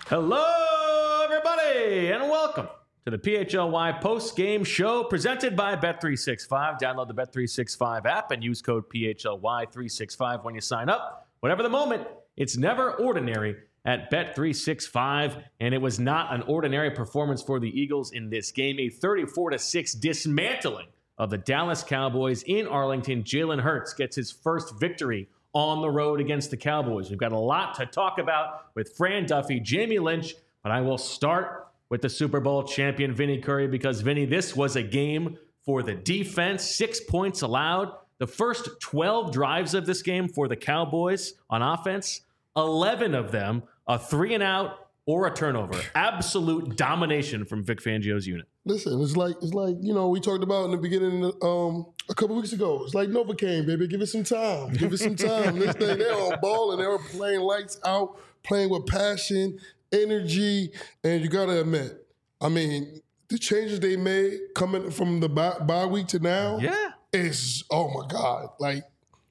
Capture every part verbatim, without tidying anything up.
Hello, everybody, and welcome to the P H L Y post-game show presented by Bet three sixty-five. Download the Bet three sixty-five app and use code P H L Y three sixty-five when you sign up. Whatever the moment, it's never ordinary at Bet three sixty-five, and it was not an ordinary performance for the Eagles in this game. A thirty-four to six dismantling of the Dallas Cowboys in Arlington. Jalen Hurts gets his first victory on the road against the Cowboys. We've got a lot to talk about with Fran Duffy, Jamie Lynch, but I will start with the Super Bowl champion, Vinny Curry, because, Vinny, this was a game for the defense. Six points allowed. The first twelve drives of this game for the Cowboys on offense, eleven of them a three and out or a turnover. Absolute domination from Vic Fangio's unit. Listen, it's like, it's like you know, we talked about in the beginning um, a couple weeks ago. It's like Novocaine, baby. Give it some time. Give it some time. This thing, they're on ball and they're playing lights out, playing with passion, energy, and you got to admit, I mean, the changes they made coming from the bye, bye week to now, yeah, is, oh my God, like,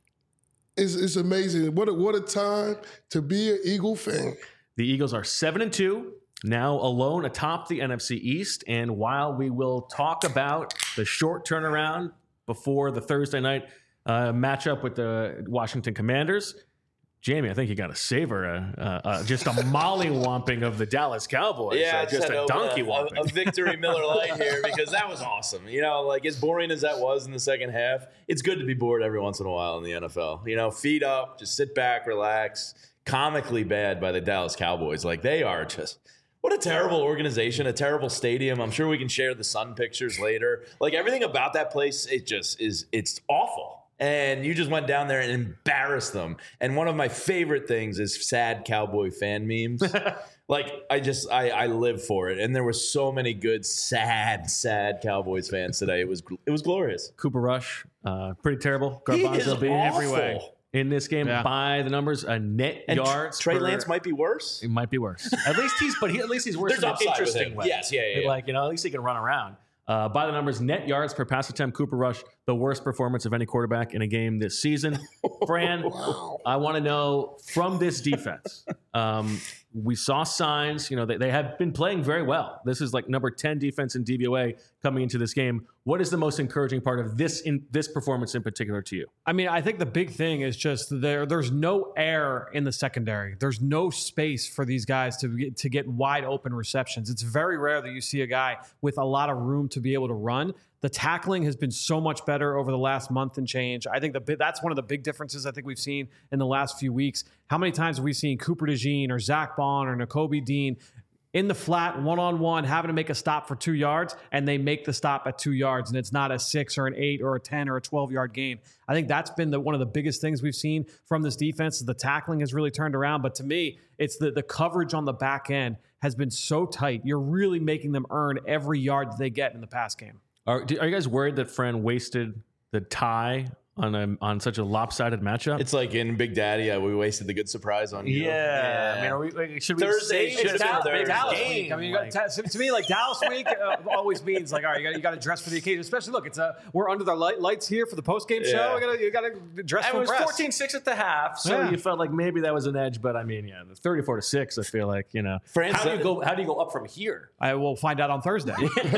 it's, it's amazing. What a, what a time to be an Eagle fan. The Eagles are seven and two, now alone atop the N F C East. And while we will talk about the short turnaround before the Thursday night uh, matchup with the Washington Commanders, Jamie, I think you got to savor a, a, a, just a mollywomping of the Dallas Cowboys. Yeah, uh, just a donkey a, whomping. A, a victory Miller Lite here because that was awesome. You know, like as boring as that was in the second half, it's good to be bored every once in a while in the N F L. You know, feet up, just sit back, relax. Comically bad by the Dallas Cowboys. Like they are just, what a terrible organization, a terrible stadium. I'm sure we can share the sun pictures later. Like everything about that place, it just is, it's awful. And you just went down there and embarrassed them. And one of my favorite things is sad Cowboy fan memes. Like I just, I, I live for it. And there were so many good, sad, sad Cowboys fans today. It was, it was glorious. Cooper Rush, uh, pretty terrible. He Garbanzo is being every way. awful. In this game, yeah. by the numbers, a net And yards. Trey per, Lance might be worse. It might be worse. At least he's, but he, at least he's worse There's in an upside with interesting him. way. Yes, yeah, yeah, yeah. Like, you know, at least he can run around. Uh, by the numbers, net yards per pass attempt, Cooper Rush, the worst performance of any quarterback in a game this season. Fran, Wow. I want to know from this defense. Um, we saw signs, you know, they, they have been playing very well. This is like number ten defense in D V O A coming into this game. What is the most encouraging part of this in this performance in particular to you? I mean, I think the big thing is just there. There's no air in the secondary. There's no space for these guys to get, to get wide open receptions. It's very rare that you see a guy with a lot of room to be able to run. The tackling has been so much better over the last month and change. I think the, that's one of the big differences I think we've seen in the last few weeks. How many times have we seen Cooper DeJean or Zach Bond or Nakobe Dean in the flat, one-on-one, having to make a stop for two yards, and they make the stop at two yards, and it's not a six or an eight or a ten or a twelve-yard gain. I think that's been the, one of the biggest things we've seen from this defense. The tackling has really turned around, but to me, it's the, the coverage on the back end has been so tight. You're really making them earn every yard that they get in the pass game. Are, do, are you guys worried that Fran wasted the tie on a, on such a lopsided matchup? It's like in Big Daddy, uh, we wasted the good surprise on you. Yeah. I mean, are we, like, should we Thursday, say should it's have been Dallas, Thursday. Dallas game? week. I mean, you got to, to me, like Dallas week uh, always means like, all right, you got you got to dress for the occasion. Especially, look, it's a we're under the light, lights here for the post game Yeah. show. You got to you got to dress And for it was press. fourteen six at the half, so Yeah. you felt like maybe that was an edge. But I mean, yeah, the thirty-four to six. I feel like, you know, France how do you said- go? How do you go up from here? I will find out on Thursday.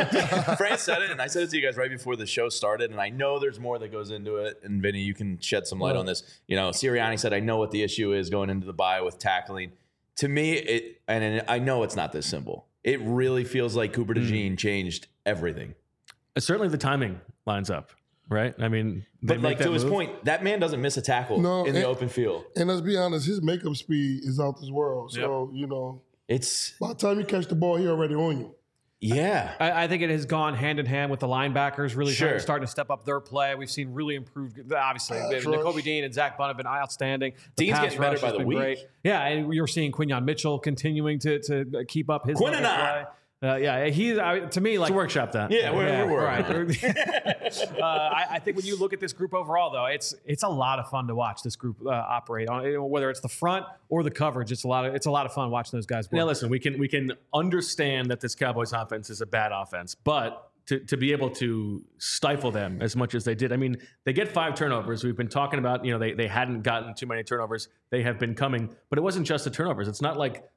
Fran said it, and I said it to you guys right before the show started, and I know there's more that goes into it, and Vinny, you can shed some light Well, on this. You know, Sirianni said, I know what the issue is going into the bye with tackling. To me, it and I know it's not this simple. It really feels like Cooper DeJean mm. changed everything. Uh, certainly the timing lines up, right? I mean, they but make like that to his move. point, that man doesn't miss a tackle No, in the and- open field. And let's be honest, his makeup speed is out this world. So, you know, It's, by the time you catch the ball, he already on you. yeah. I, I think it has gone hand in hand with the linebackers really Sure. starting, starting to step up their play. We've seen really improved. Obviously, Pass Nakobe rush. Dean and Zach Bunn have been outstanding. The Dean's pass getting better rush by has the been week. great. Yeah, and you're seeing Quinyon Mitchell continuing to to keep up his level of Quinnon. play. Uh, yeah, he's I, to me like Let's workshop that. Yeah, we're, Yeah, we're right. working. uh, I, I think when you look at this group overall, though, it's it's a lot of fun to watch this group uh, operate on. Whether it's the front or the coverage, it's a lot of it's a lot of fun watching those guys work. Now, listen, we can we can understand that this Cowboys offense is a bad offense, but to, to be able to stifle them as much as they did, I mean, they get five turnovers. We've been talking about, you know, they, they hadn't gotten too many turnovers. They have been coming, but it wasn't just the turnovers. It's not like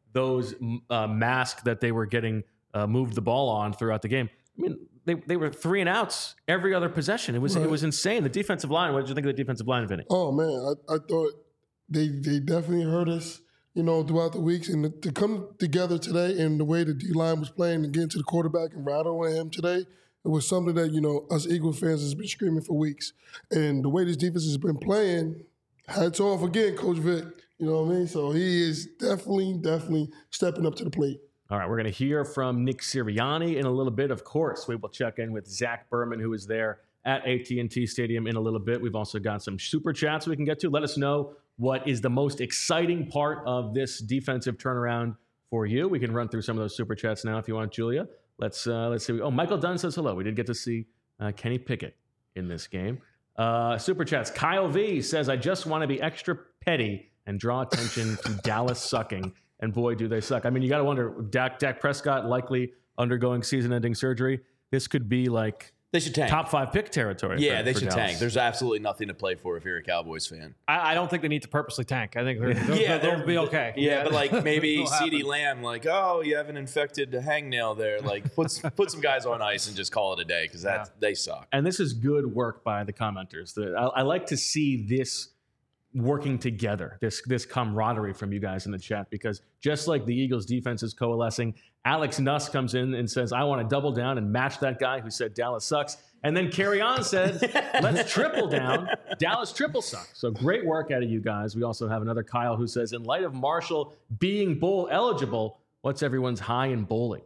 those uh, masks that they were getting uh, moved the ball on throughout the game. I mean, they, they were three and outs every other possession. It was Right. it was insane. The defensive line. What did you think of the defensive line, Vinny? Oh man, I, I thought they they definitely hurt us, you know, throughout the weeks, and to, to come together today and the way the D line was playing and getting to the quarterback and rattling him today, it was something that, you know, us Eagles fans has been screaming for weeks. And the way this defense has been playing, hats off again, Coach Vic. You know what I mean? So he is definitely, definitely stepping up to the plate. All right, we're going to hear from Nick Sirianni in a little bit. Of course, we will check in with Zach Berman, who is there at A T and T Stadium in a little bit. We've also got some super chats we can get to. Let us know what is the most exciting part of this defensive turnaround for you. We can run through some of those super chats now if you want, Julia. Let's uh, let's see. Oh, Michael Dunn says hello. We did get to see uh, Kenny Pickett in this game. Uh, super chats. Kyle V says, I just want to be extra petty and draw attention to Dallas sucking. And boy, do they suck. I mean, you got to wonder, Dak, Dak Prescott likely undergoing season-ending surgery. This could be like They should tank. top five pick territory. Yeah, for, they for should Dallas. tank. There's absolutely nothing to play for if you're a Cowboys fan. I, I don't think they need to purposely tank. I think they're, they'll, Yeah, they'll they're- be okay. Yeah, but like maybe It'll CeeDee happen. Lamb, like, oh, you have an infected hangnail there. Like, put put some guys on ice and just call it a day because that Yeah. they suck. And this is good work by the commenters. The, I, I like to see this working together, this this camaraderie from you guys in the chat, because just like the Eagles defense is coalescing, Alex Nuss comes in and says, I want to double down and match that guy who said Dallas sucks. And then Carry On said, let's triple down. Dallas triple sucks. So great work out of you guys. We also have another Kyle who says, in light of Marshall being bowl eligible, what's everyone's high in bowling?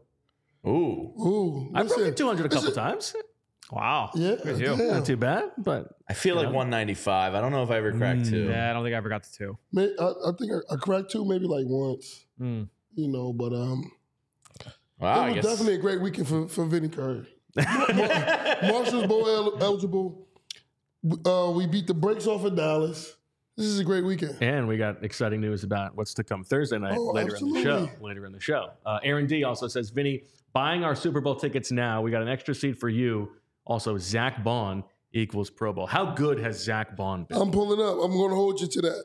Ooh, Ooh, I broke listen, it two hundred a couple times. Wow. Yeah, Good deal. damn. Not too bad, but I feel like Yeah. one ninety-five. I don't know if I ever cracked two. Yeah, I don't think I ever got to two. May- I, I think I, I cracked two maybe like once, Mm. you know, but um, Wow, it I was guess definitely a great weekend for, for Vinny Curry. Mar- Marshall's Bowl el- eligible. Uh, we beat the brakes off of Dallas. This is a great weekend. And we got exciting news about what's to come Thursday night Oh, later in the show. absolutely. Later in the show. Uh, Aaron D also says, Vinny, buying our Super Bowl tickets now. We got an extra seat for you. Also, Zach Bond equals Pro Bowl. How good has Zach Bond been? I'm pulling up. I'm going to hold you to that.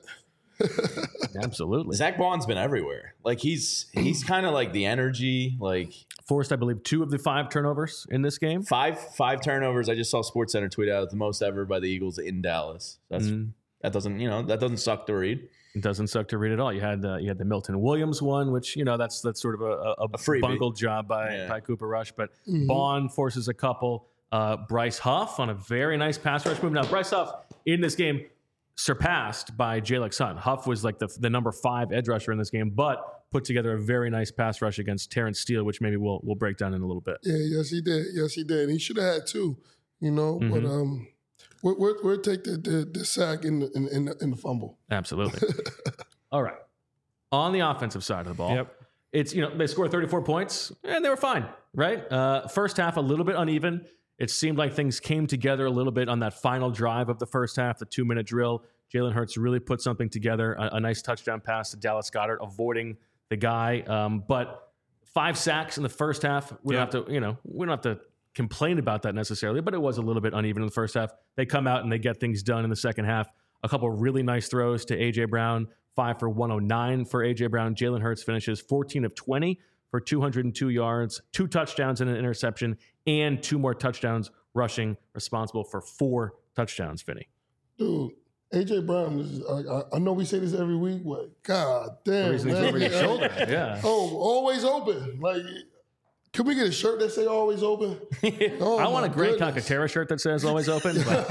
Absolutely. Zach Bond's been everywhere. Like he's he's kind of like the energy. Like Forced, I believe, two of the five turnovers in this game. five five turnovers. I just saw SportsCenter tweet out the most ever by the Eagles in Dallas. That's Mm. that doesn't you know that doesn't suck to read. It doesn't suck to read at all. You had uh, you had the Milton Williams one, which you know that's that's sort of a, a, A freebie. bungled job by Yeah. by Cooper Rush, but Mhm. Bond forces a couple. Uh, Bryce Huff on a very nice pass rush move. Now Bryce Huff in this game surpassed by Jalen Sutton. Huff was like the the number five edge rusher in this game, but put together a very nice pass rush against Terrence Steele, which maybe we'll we'll break down in a little bit. Yeah, yes, he did. Yes, he did. He should have had two, you know, but Mhm. um, we'll, we'll, we'll take the, the, the sack in the, in, in, the, in the fumble. Absolutely. All right. On the offensive side of the ball, Yep. it's, you know, they scored thirty-four points and they were fine, right? Uh, first half, a little bit uneven. It seemed like things came together a little bit on that final drive of the first half, the two minute drill. Jalen Hurts really put something together, a, a nice touchdown pass to Dallas Goedert, avoiding the guy. Um, but five sacks in the first half. We Yeah. don't have to, you know, we don't have to complain about that necessarily, but it was a little bit uneven in the first half. They come out and they get things done in the second half. A couple of really nice throws to A J Brown, five for one oh nine for A J Brown. Jalen Hurts finishes fourteen of twenty for two hundred two yards, two touchdowns and an interception, and two more touchdowns rushing, responsible for four touchdowns, Vinny. Dude, A J Brown is, I, I- I know we say this every week, but God The damn, reason he's man. over your shoulder. Yeah. Oh, always open. Like, can we get a shirt that say always open? Oh, I want a my Grant goodness. Calcaterra shirt that says always open. But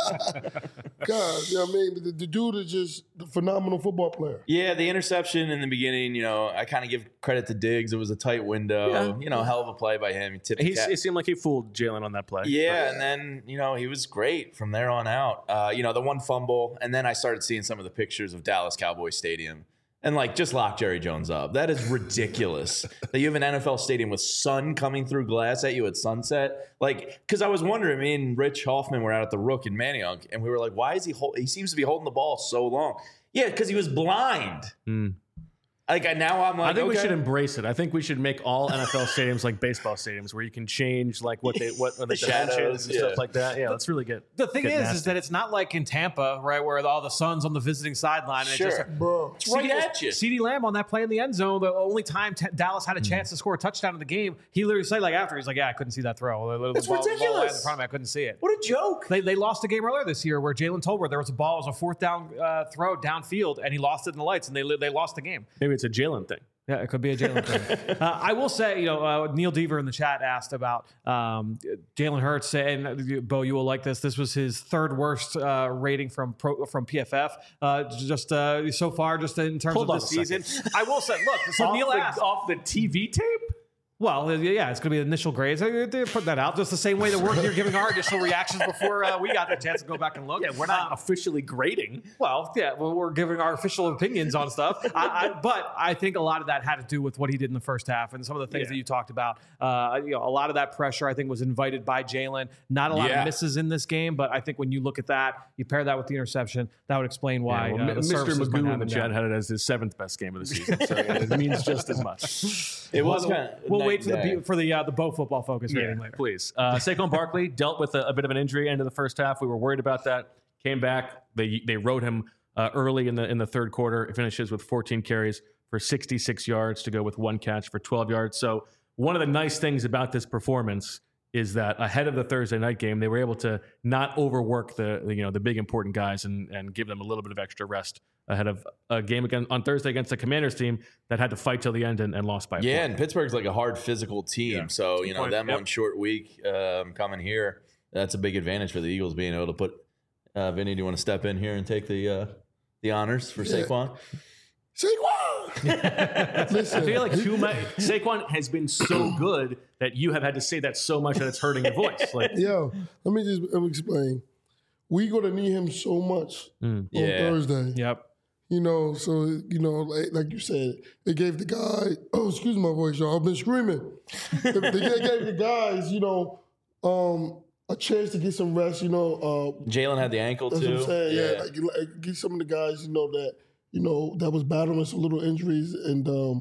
God, you know what I mean? The, the dude is just a phenomenal football player. Yeah, the interception in the beginning, you know, I kind of give credit to Diggs. It was a tight window. Yeah. You know, hell of a play by him. He tipped the he's, cap. it seemed like he fooled Jalen on that play. Yeah, and then, you know, he was great from there on out. Uh, you know, the one fumble, and then I started seeing some of the pictures of Dallas Cowboys Stadium. And, like, just lock Jerry Jones up. That is ridiculous that you have an N F L stadium with sun coming through glass at you at sunset. Like, because I was wondering, me and Rich Hoffman were out at the Rook in Manayunk, and we were like, why is he hold- – he seems to be holding the ball so long. Yeah, because he was blind. Mm. Like now I'm like, I think okay. we should embrace it. I think we should make all N F L stadiums like baseball stadiums, where you can change like what they what, what the, The shadows, dimensions and yeah. stuff like that. Yeah, that's really good. The thing Get is, nasty. is that it's not like in Tampa, right, where all the sun's on the visiting sideline. And Sure. It just, Bro, It's right at you. CeeDee Lamb on that play in the end zone, the only time t- Dallas had a chance to score a touchdown in the game, he literally said, like, after, he's like, yeah, I couldn't see that throw. The, the That's ball, the ball ridiculous. in front of me, I couldn't see it. What a joke. They, they lost a game earlier this year where Jalen Tolbert, there was a ball, it was a fourth down uh, throw downfield, and he lost it in the lights, and they they lost the game. Maybe it's a Jalen thing. Yeah, it could be a Jalen thing. Uh, I will say, you know, uh, Neil Deaver in the chat asked about um, Jalen Hurts, and uh, Bo, you will like this. This was his third worst uh, rating from pro, from P F F, uh, just uh, so far, just in terms Hold of on the a second. season. I will say, look, so off, Neil the, asked. off the T V tape. Well, yeah, it's going to be initial grades. They they put that out just the same way that we're here giving our initial reactions before uh, we got the chance to go back and look. Yeah, we're not Um, officially grading. Well, yeah, well, we're giving our official opinions on stuff. I, I, but I think a lot of that had to do with what he did in the first half and some of the things Yeah. that you talked about. Uh, you know, a lot of that pressure I think was invited by Jalen. Not a lot Yeah. of misses in this game, but I think when you look at that, you pair that with the interception, that would explain why Yeah, well, uh, Mi- the Mister services went Magoo up in the and chat down. had it as his seventh best game of the season, so it means just as much. It was We'll, kind of we'll wait for the for the uh, the Bo football focus Yeah, rating later. please. Uh, Saquon Barkley dealt with a, a bit of an injury end of the first half. We were worried about that. Came back. They they rode him uh, early in the in the third quarter. It finishes with fourteen carries for sixty-six yards to go with one catch for twelve yards. So one of the nice things about this performance is that ahead of the Thursday night game, they were able to not overwork the, the you know the big important guys and and give them a little bit of extra rest ahead of a game again on Thursday against the Commanders team that had to fight till the end and, and lost by a Yeah, point. and Pittsburgh's like a hard physical team. Yeah. So, you know, point. them Yep. on short week um, coming here, that's a big advantage for the Eagles being able to put uh, Vinny, do you want to step in here and take the uh, the honors for Yeah. Saquon? Saquon! Listen, I feel like too much. Saquon has been so good that you have had to say that so much that it's hurting your voice. Like, yo, let me just let me explain. We going to need him so much on Yeah. Thursday. Yep. You know, so, you know, like, like you said, they gave the guy, oh, excuse my voice, y'all, I've been screaming. they, they gave the guys, you know, um, a chance to get some rest, you know. Uh, Jalen had the ankle that's too. what I'm saying, yeah. Like, like, get some of the guys, you know, that, you know, that was battling some little injuries and um,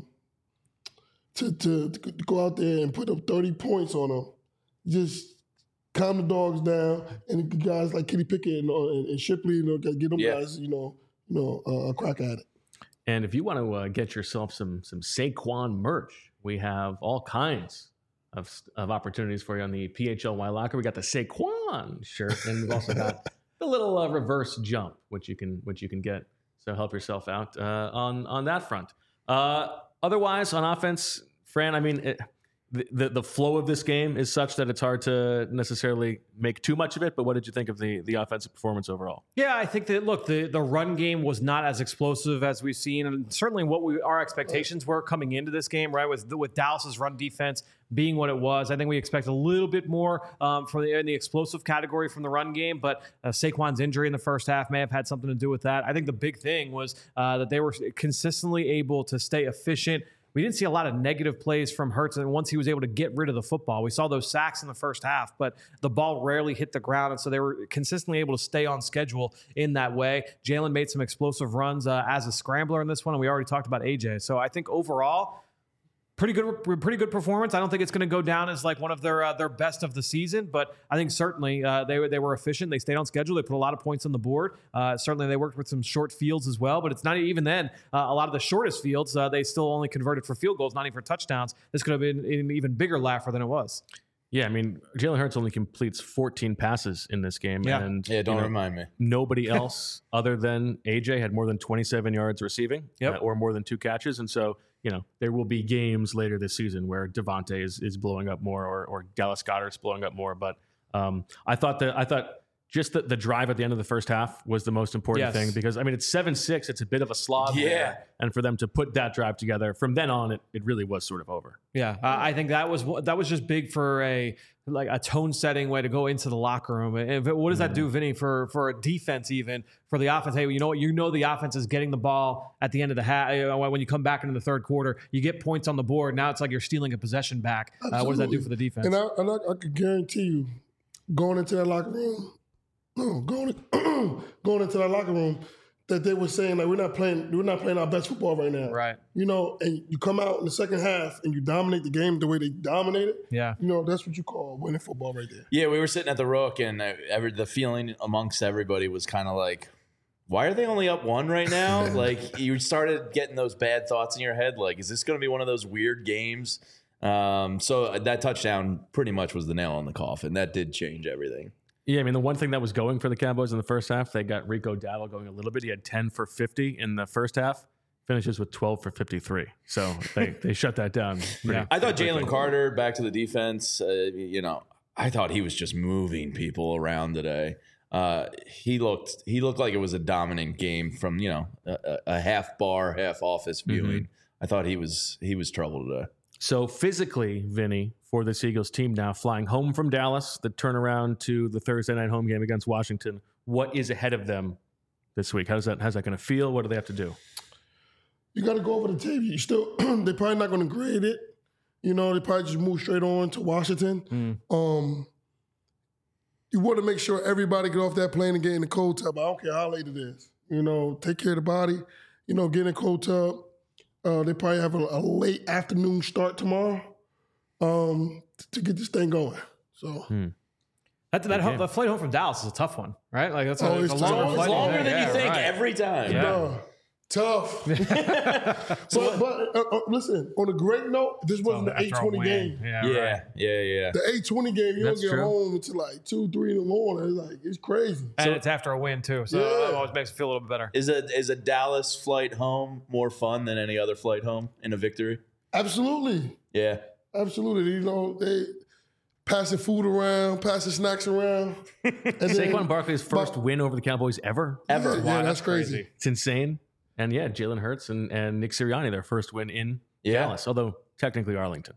to, to, to go out there and put up thirty points on them. Just calm the dogs down, and the guys like Kenny Pickett and, uh, and, and Shipley, you know, get them Yeah. guys, you know, you know, uh, a crack at it. and if you want to uh, get yourself some some Saquon merch, we have all kinds of of opportunities for you on the P H L Y locker. We got the Saquon shirt, and we've also got the little uh, reverse jump, which you can which you can get. So help yourself out uh, on on that front. Uh, otherwise, on offense, Fran, I mean, it, the, the the flow of this game is such that it's hard to necessarily make too much of it. But what did you think of the the offensive performance overall? Yeah, I think that look, the the run game was not as explosive as we've seen, and certainly what we our expectations were coming into this game, right? With with Dallas's run defense being what it was, I think we expect a little bit more um, from the in the explosive category from the run game. But uh, Saquon's injury in the first half may have had something to do with that. I think the big thing was uh, that they were consistently able to stay efficient. We didn't see a lot of negative plays from Hurts, and once he was able to get rid of the football, we saw those sacks in the first half, but the ball rarely hit the ground, and so they were consistently able to stay on schedule in that way. Jalen made some explosive runs uh, as a scrambler in this one, and we already talked about A J. So I think overall, pretty good, pretty good performance. I don't think it's going to go down as like one of their uh, their best of the season, but I think certainly uh, they were they were efficient. They stayed on schedule. They put a lot of points on the board. Uh, certainly, they worked with some short fields as well. But it's not even then. Uh, a lot of the shortest fields, uh, they still only converted for field goals, not even for touchdowns. This could have been an even bigger laugher than it was. Yeah, I mean, Jalen Hurts only completes fourteen passes in this game, Yeah. and Yeah, don't you know, remind me. nobody else other than A J had more than twenty-seven yards receiving Yep. uh, or more than two catches. And so, you know, there will be games later this season where Devontae is, is blowing up more or, or Dallas Goedert's blowing up more. But um, I thought that I thought just the, the drive at the end of the first half was the most important Yes. thing because, I mean, it's seven six. It's a bit of a slog Yeah. there. And for them to put that drive together, from then on, it, it really was sort of over. Yeah, uh, I think that was that was just big for a like a tone setting way to go into the locker room. And if- what does that do, Vinny, for for a defense, even for the offense? Hey, you know what? You know the offense is getting the ball at the end of the half. When you come back into the third quarter, you get points on the board. Now it's like you're stealing a possession back. Uh, what does that do for the defense? And I, and I, I could guarantee you, going into that locker room, no, going going into that locker room, that they were saying like we're not playing we're not playing our best football right now. Right. You know, and you come out in the second half and you dominate the game the way they dominated. Yeah. You know, that's what you call winning football right there. Yeah, we were sitting at the Rook, and uh, every, the feeling amongst everybody was kind of like, why are they only up one right now? Like, you started getting those bad thoughts in your head. Like, is this going to be one of those weird games? Um, so that touchdown pretty much was the nail on the coffin. That did change everything. Yeah, I mean, the one thing that was going for the Cowboys in the first half, they got Rico Dowdle going a little bit. He had ten for fifty in the first half, finishes with twelve for fifty-three. So they, they shut that down. Pretty, Yeah. I thought pretty Jalen quickly. Carter, back to the defense, uh, you know, I thought he was just moving people around today. Uh, he looked he looked like it was a dominant game from, you know, a, a half bar, half office viewing. Mm-hmm. I thought he was he was trouble today. So physically, Vinny, for this Eagles team now, flying home from Dallas, the turnaround to the Thursday night home game against Washington, what is ahead of them this week? How's that, how's that going to feel? What do they have to do? You got to go over the tape. You still, they're probably not going to grade it. You know, they probably just move straight on to Washington. Mm. Um, you want to make sure everybody get off that plane and get in the cold tub. I don't care how late it is. You know, take care of the body. You know, get in the cold tub. Uh, they probably have a, a late afternoon start tomorrow um, to get this thing going. So Hmm. That, that, Okay. that flight home from Dallas is a tough one, right? Like that's a, Oh, it's a it's longer tough. flight. It's longer than Yeah, you think right. every time. Yeah. uh, tough. but but uh, uh, listen, on a great note, this wasn't the After eight a twenty win. game. Yeah, Yeah, right. yeah, yeah. The eight twenty game, you That's don't get true. home until like two, three in the morning. It's like, it's crazy. And it's after a win too, so Yeah. that always makes it feel a little bit better. Is a is a Dallas flight home more fun than any other flight home in a victory? Absolutely. Yeah. Absolutely. You know, they passing food around, passing snacks around. And then- Saquon Barkley's first but- win over the Cowboys ever. Ever. Yeah, Wow, that's that's crazy. crazy. It's insane. And yeah, Jalen Hurts and, and Nick Sirianni, their first win in Yeah. Dallas, although technically Arlington.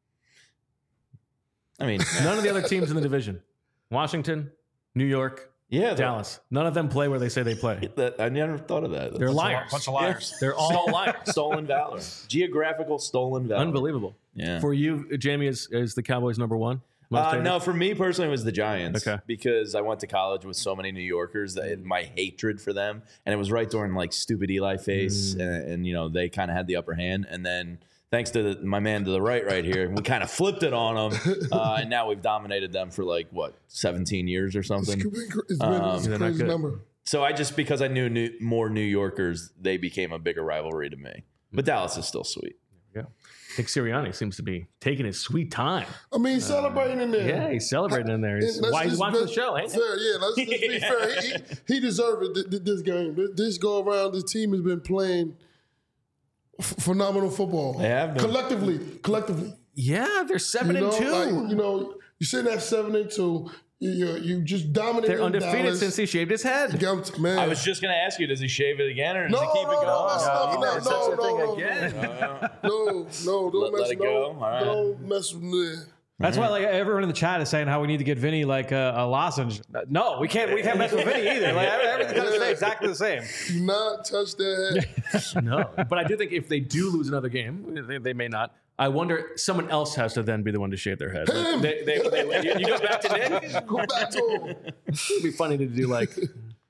I mean, None of the other teams in the division, Washington, New York, yeah, Dallas, none of them play where they say they play. That, I never thought of that. They're That's liars. bunch of liars. They're all liars. stolen valor. Geographical stolen valor. Unbelievable. Yeah. For you, Jamie, is, is the Cowboys number one? Most Uh, hated? no, for me personally, it was the Giants. Okay. Because I went to college with so many New Yorkers that my hatred for them, and it was right during like stupid Eli face, Mm. and, and you know they kind of had the upper hand, and then thanks to the, my man to the right, right here, we kind of flipped it on them, uh, and now we've dominated them for like what seventeen years or It's something. been, it's been Um, it's a they're not crazy good. number. So I just because I knew new, more New Yorkers, they became a bigger rivalry to me. But Dallas is still sweet. Yeah. Nick Sirianni seems to be taking his sweet time. I mean, celebrating in there. Yeah, he's celebrating in there. He's, And let's why he's just watching be the show, ain't he? fair, yeah, let's, let's be fair. He, he, he deserved it th- th- this game. Th- This go around, this team has been playing f- phenomenal football. They have been. Collectively, collectively. Yeah, they're seven You know, and two. like, you know, you're sitting at seven and two. You, you, you just dominated. they're undefeated Dallas. since he shaved his head. Man, I was just going to ask you, does he shave it again or does No, he keep no, it no, going? that's Oh, not- he no, did such no, a thing no, no, again. no, no, don't Let- mess let it no, go? All right. Don't mess with me. That's why like everyone in the chat is saying how we need to get Vinny like a, a lozenge. No, we can't. We can't mess with Vinny either. Like everything's got to stay exactly the same. Do not touch that head. No, but I do think if they do lose another game, they, they may not. I wonder someone else has to then be the one to shave their head. Like, Him. they, they, they, you, you go back to Nick. Go back to him. It'd be funny to do like,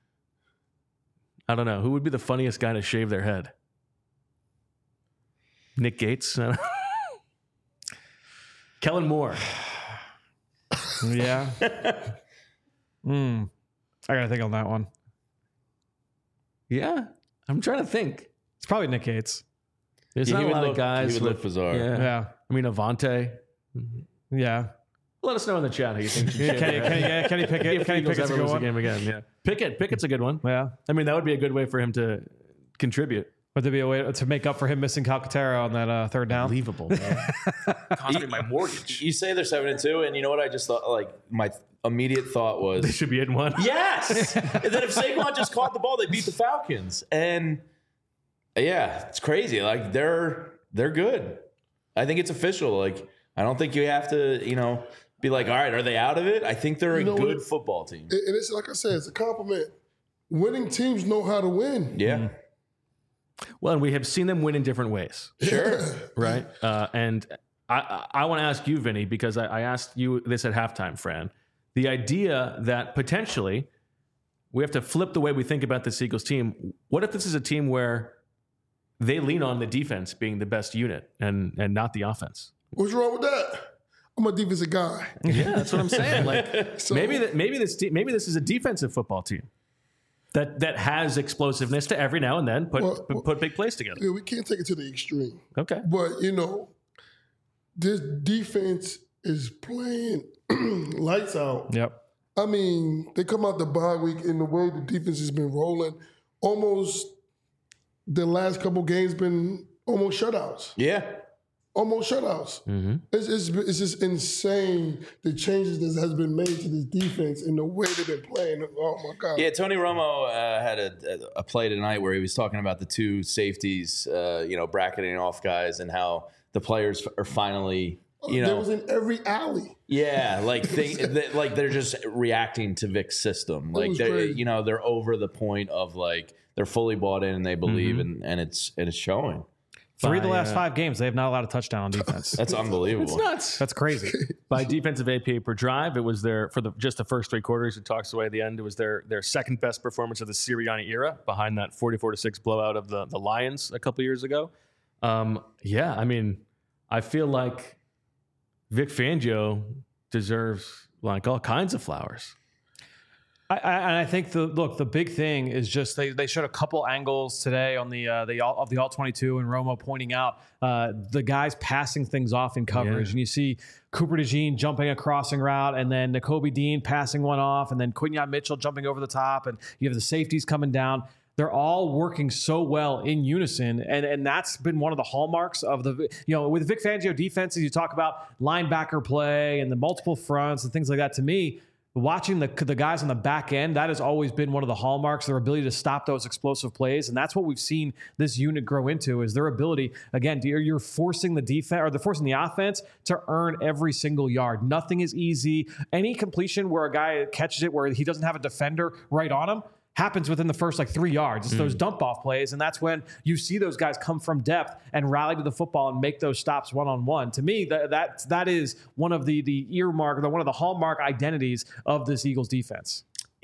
I don't know, who would be the funniest guy to shave their head? Nick Gates, Kellen Moore. Yeah. Hmm. I gotta think on that one. Yeah, I'm trying to think. It's probably Nick Gates. There's Yeah, not he a would lot look- of guys. he would look with- bizarre. Yeah. Yeah. I mean Avante. Yeah. Let us know in the chat who you think should shave Kenny, their Kenny, head. yeah, Kenny Pickett. If Kenny Eagles Pickett's a ever good lose the one. game again, yeah. Pickett, Pickett's a good one. Yeah. I mean, that would be a good way for him to contribute. Would there be a way to make up for him missing Calcaterra on that uh, third down? Unbelievable. Cost me my mortgage. You say they're seven and two, and you know what I just thought? Like my immediate thought They was, should be in one. yes. And then if Saquon just caught the ball, they beat the Falcons, and yeah, it's crazy. Like they're they're good. I think it's official. Like I don't think you have to, you know, be like, all right, are they out of it? I think they're You know a good what? football team. And it's like I said, it's a compliment. Winning teams know how to win. Yeah, Well, and we have seen them win in different ways, sure. right? Uh, and I, I, I want to ask you, Vinny, because I, I asked you this at halftime, Fran. The idea that potentially we have to flip the way we think about this Eagles team. What if this is a team where they lean on the defense being the best unit and and not the offense? What's wrong with that? I'm a defensive guy. Yeah, that's what I'm saying. Like So- maybe that maybe this te- maybe this is a defensive football team that that has explosiveness to every now and then put Well, put, put big plays together. Yeah, we can't take it to the extreme. Okay. But, you know, this defense is playing lights out. Yep. I mean, they come out the bye week and the way the defense has been rolling, almost the last couple games been almost shutouts. Yeah. Almost shutouts. Mm-hmm. It's, it's, it's just insane the changes that has been made to this defense and the way they've been playing. Oh, my God. Yeah, Tony Romo uh, had a, a play tonight where he was talking about the two safeties, uh, you know, bracketing off guys and how the players are finally, you They know, was in every alley. yeah, like they, they like they're just reacting to Vic's system. Like was they, crazy. you know, they're over the point of like they're fully bought in and they believe, Mm-hmm. and and it's and it's showing. Three of the By, last uh, five games, they have not allowed a touchdown on defense. That's unbelievable. It's nuts. That's crazy. By defensive A P A per drive, it was their for the just the first three quarters. It talks away at the end. It was their their second best performance of the Sirianni era, behind that forty-four to six blowout of the the Lions a couple years ago. Um, yeah, I mean, I feel like Vic Fangio deserves like all kinds of flowers. I, I, and I think the look, the big thing is just they, they showed a couple angles today on the uh, the all, of the all twenty-two, and Romo pointing out uh, the guys passing things off in coverage, Yeah. and you see Cooper DeJean jumping a crossing route, and then Nakobe Dean passing one off, and then Quinyon Mitchell jumping over the top, and you have the safeties coming down. They're all working so well in unison, and and that's been one of the hallmarks of the, you know, with Vic Fangio defenses. You talk about linebacker play and the multiple fronts and things like that. To me, watching the the guys on the back end, that has always been one of the hallmarks, their ability to stop those explosive plays, and that's what we've seen this unit grow into, is their ability, again, you're, you're forcing the defense, or they're forcing the offense to earn every single yard. Nothing is easy. Any completion where a guy catches it where he doesn't have a defender right on him happens within the first like three yards. It's Mm. those dump off plays, and that's when you see those guys come from depth and rally to the football and make those stops one on one. To me, that that that is one of the the earmark, the one of the hallmark identities of this Eagles defense.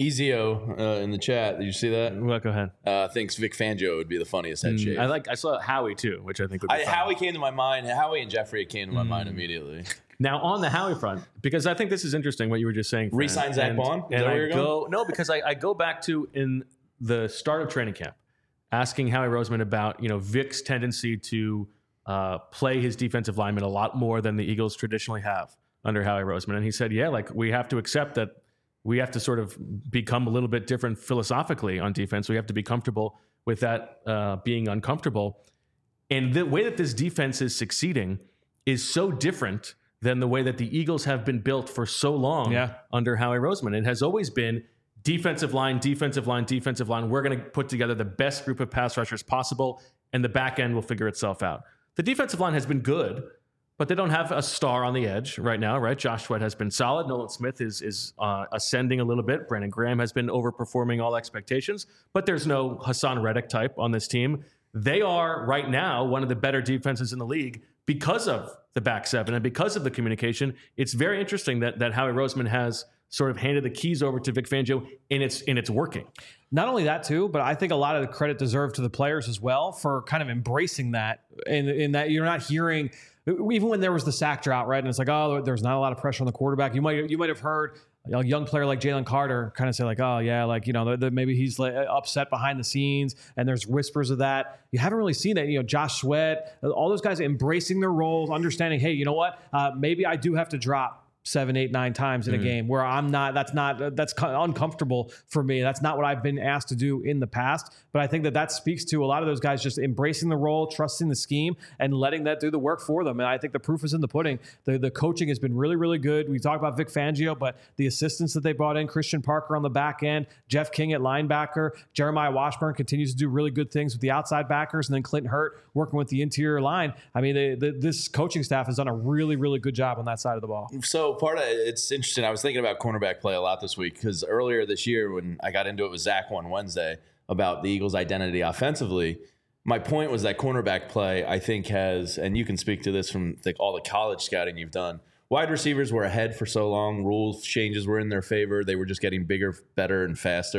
Ezio uh, in the chat, did you see that? Well, go ahead. Uh, thinks Vic Fangio would be the funniest head shave. I like. I saw Howie too, which I think would be I, fun. Howie came to my mind. Howie and Jeffrey came to my Mm. mind immediately. Now on the Howie front, because I think this is interesting what you were just saying. Fran. Re-sign Zach And- Bond? Is and that where I you're go going? no, because I, I go back to in the start of training camp, asking Howie Roseman about you know Vic's tendency to uh, play his defensive linemen a lot more than the Eagles traditionally have under Howie Roseman, and he said, yeah, like we have to accept that we have to sort of become a little bit different philosophically on defense. We have to be comfortable with that uh, being uncomfortable, and the way that this defense is succeeding is so different than the way that the Eagles have been built for so long Yeah. under Howie Roseman. It has always been defensive line, defensive line, defensive line. We're going to put together the best group of pass rushers possible, and the back end will figure itself out. The defensive line has been good, but they don't have a star on the edge right now, right? Josh Sweat has been solid. Nolan Smith is is uh, ascending a little bit. Brandon Graham has been overperforming all expectations, but there's no Hassan Reddick type on this team. They are right now one of the better defenses in the league because of the back seven and because of the communication. It's very interesting that that Howie Roseman has sort of handed the keys over to Vic Fangio, and it's and it's working. Not only that too, but I think a lot of the credit deserved to the players as well for kind of embracing that, in, in that you're not hearing, even when there was the sack drought, right? And it's like, oh, there's not a lot of pressure on the quarterback. You might you might have heard a young player like Jalen Carter kind of say like, oh yeah, like, you know, the, the, maybe he's like upset behind the scenes, and there's whispers of that. You haven't really seen that. You know, Josh Sweat, all those guys embracing their roles, understanding, hey, you know what, uh, maybe I do have to drop seven, eight, nine times in a game where I'm not, that's not, that's uncomfortable for me. That's not what I've been asked to do in the past. But I think that that speaks to a lot of those guys just embracing the role, trusting the scheme, and letting that do the work for them. And I think the proof is in the pudding. The the coaching has been really, really good. We talk about Vic Fangio, but the assistants that they brought in, Christian Parker on the back end, Jeff King at linebacker, Jeremiah Washburn continues to do really good things with the outside backers, and then Clinton Hurt working with the interior line. I mean, they, the, this coaching staff has done a really, really good job on that side of the ball. So part of it's interesting. I was thinking about cornerback play a lot this week because earlier this year when I got into it with Zach one Wednesday about the Eagles' identity offensively, my point was that cornerback play I think has, and you can speak to this from like all the college scouting you've done, wide receivers were ahead for so long. Rules changes were in their favor. They were just getting bigger, better, and faster.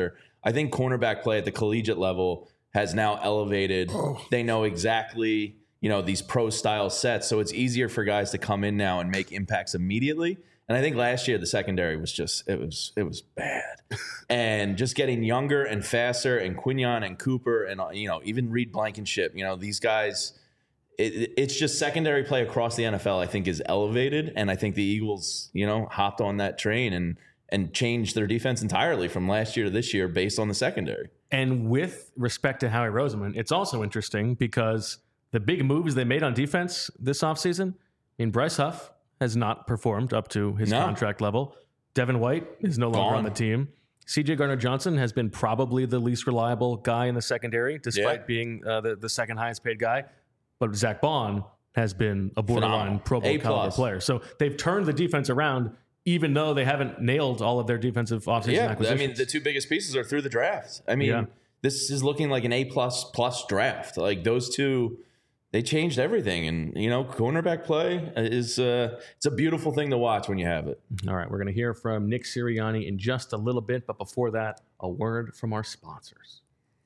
I think cornerback play at the collegiate level has now elevated. Oh. They know exactly, you know, these pro style sets. So it's easier for guys to come in now and make impacts immediately. And I think last year the secondary was just, it was, it was bad. And just getting younger and faster, and Quinion and Cooper and, you know, even Reed Blankenship, you know, these guys, it, it's just secondary play across the N F L, I think, is elevated. And I think the Eagles, you know, hopped on that train and, and changed their defense entirely from last year to this year based on the secondary. And with respect to Howie Roseman, it's also interesting because the big moves they made on defense this offseason, in Bryce Huff has not performed up to his No. contract level. Devin White is no longer Gone. on the team. C J Gardner-Johnson has been probably the least reliable guy in the secondary, despite Yeah. being uh, the, the second highest paid guy. But Zach Bond has been a borderline Phenomenal. Pro Bowl A caliber plus. player. So they've turned the defense around, even though they haven't nailed all of their defensive offseason Yeah, I acquisitions. mean, the two biggest pieces are through the draft. I mean, Yeah. this is looking like an A plus plus draft. Like those two, they changed everything. And you know, cornerback play is uh, it's a beautiful thing to watch when you have it. All right, we're going to hear from Nick Sirianni in just a little bit, but before that, a word from our sponsors.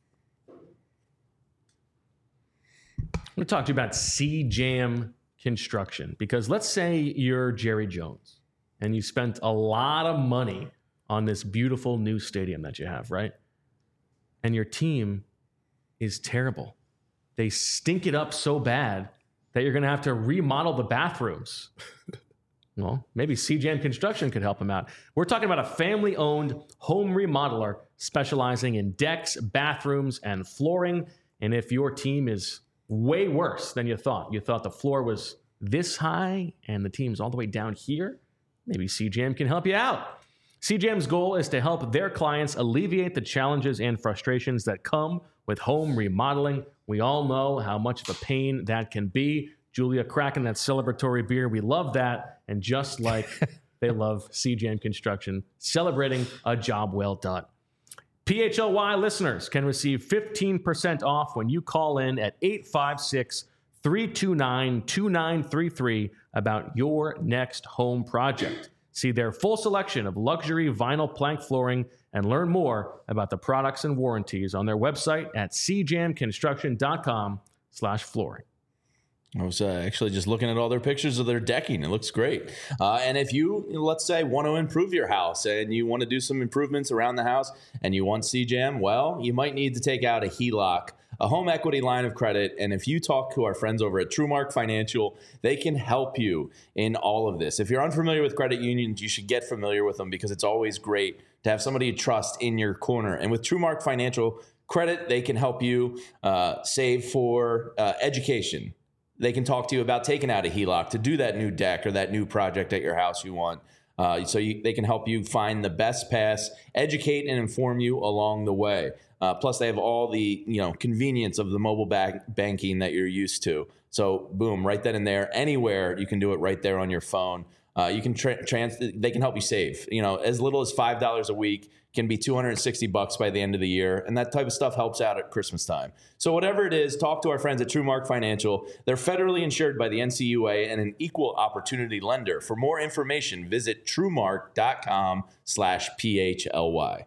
I'm going to talk to you about C Jam Construction, because let's say you're Jerry Jones and you spent a lot of money on this beautiful new stadium that you have, right? And your team is terrible. They stink it up so bad that you're going to have to remodel the bathrooms. Well, maybe C J M Construction could help them out. We're talking about a family-owned home remodeler specializing in decks, bathrooms, and flooring. And if your team is way worse than you thought, you thought the floor was this high and the team's all the way down here, maybe C J M can help you out. C J M's goal is to help their clients alleviate the challenges and frustrations that come with home remodeling. We all know how much of a pain that can be. Julia cracking that celebratory beer. We love that. And just like they love C J M Construction, celebrating a job well done. P H L Y listeners can receive fifteen percent off when you call in at eight five six, three two nine, two nine three three about your next home project. See their full selection of luxury vinyl plank flooring and learn more about the products and warranties on their website at c jam construction dot com slash flooring. I was uh, actually just looking at all their pictures of their decking. It looks great. Uh, and if you, let's say, want to improve your house and you want to do some improvements around the house and you want C J M, well, you might need to take out a H E L O C, a home equity line of credit. And if you talk to our friends over at TrueMark Financial, they can help you in all of this. If you're unfamiliar with credit unions, you should get familiar with them, because it's always great to have somebody you trust in your corner. And with TrueMark Financial Credit, they can help you uh, save for uh, education. They can talk to you about taking out a H E L O C to do that new deck or that new project at your house you want. Uh, so you, they can help you find the best pass, educate and inform you along the way. Uh, plus, they have all the you know convenience of the mobile bank banking that you're used to. So, boom, right then and there, anywhere you can do it right there on your phone. Uh, you can tra- trans. They can help you save. You know, as little as five dollars a week can be two hundred sixty bucks by the end of the year, and that type of stuff helps out at Christmas time. So, whatever it is, talk to our friends at TrueMark Financial. They're federally insured by the N C U A and an equal opportunity lender. For more information, visit truemark dot com slash P H L Y.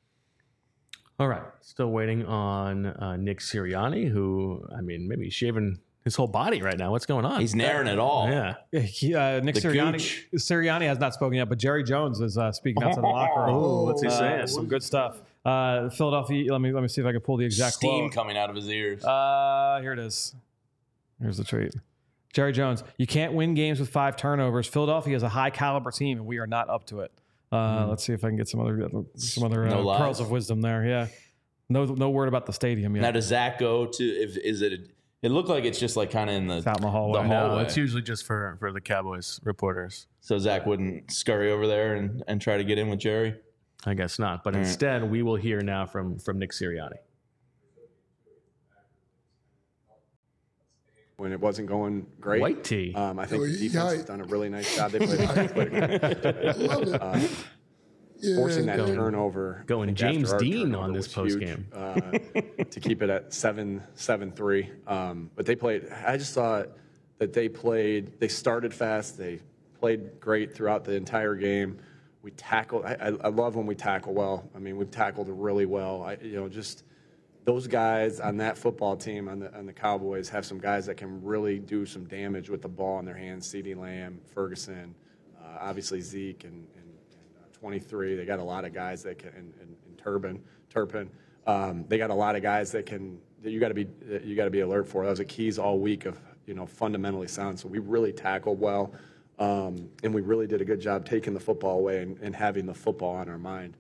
All right. Still waiting on uh, Nick Sirianni, who, I mean, maybe he's shaving his whole body right now. What's going on? He's naring it all. Yeah. Yeah, he, uh, Nick The Sirianni, gooch. Sirianni has not spoken yet, but Jerry Jones is uh, speaking out to the locker room. Oh, what's he Uh, saying? some good stuff. Uh, Philadelphia. Let me let me see if I can pull the exact Steam quote. coming out of his ears. Uh, here it is. Here's the tweet. Jerry Jones, you can't win games with five turnovers. Philadelphia is a high caliber team, and we are not up to it. Uh, Let's see if I can get some other some other No uh, lies. pearls of wisdom there. Yeah, no no word about the stadium yet. Now, does Zach go to? If is it? It looked like it's just like kind of in the, It's out in the hallway. the No, hallway. it's usually just for, for the Cowboys reporters. So Zach wouldn't scurry over there and, and try to get in with Jerry. I guess not. But instead, we will hear now from, from Nick Sirianni. When it wasn't going great. White tee. Um, I think Oh, the yeah, defense I- has done a really nice job. They played, played a I love it. uh, Yeah. forcing that Going- turnover. going I think after James our Dean turnover on this was huge, postgame. uh, to keep it at seven seven three. Um, but they played. I just thought that they played. They started fast. They played great throughout the entire game. we tackle. I, I love when we tackle well. I mean, we've tackled really well. I, you know, just those guys on that football team on the on the Cowboys have some guys that can really do some damage with the ball in their hands. CeeDee Lamb, Ferguson, uh, obviously Zeke, and, and, and uh, twenty-three. They got a lot of guys that can. And, and, and Turpin, Turpin. Um, they got a lot of guys that can. That you got to be. You got to be alert for. That was a keys all week of you know fundamentally sound. So we really tackled well. Um, and we really did a good job taking the football away and, and having the football on our mind.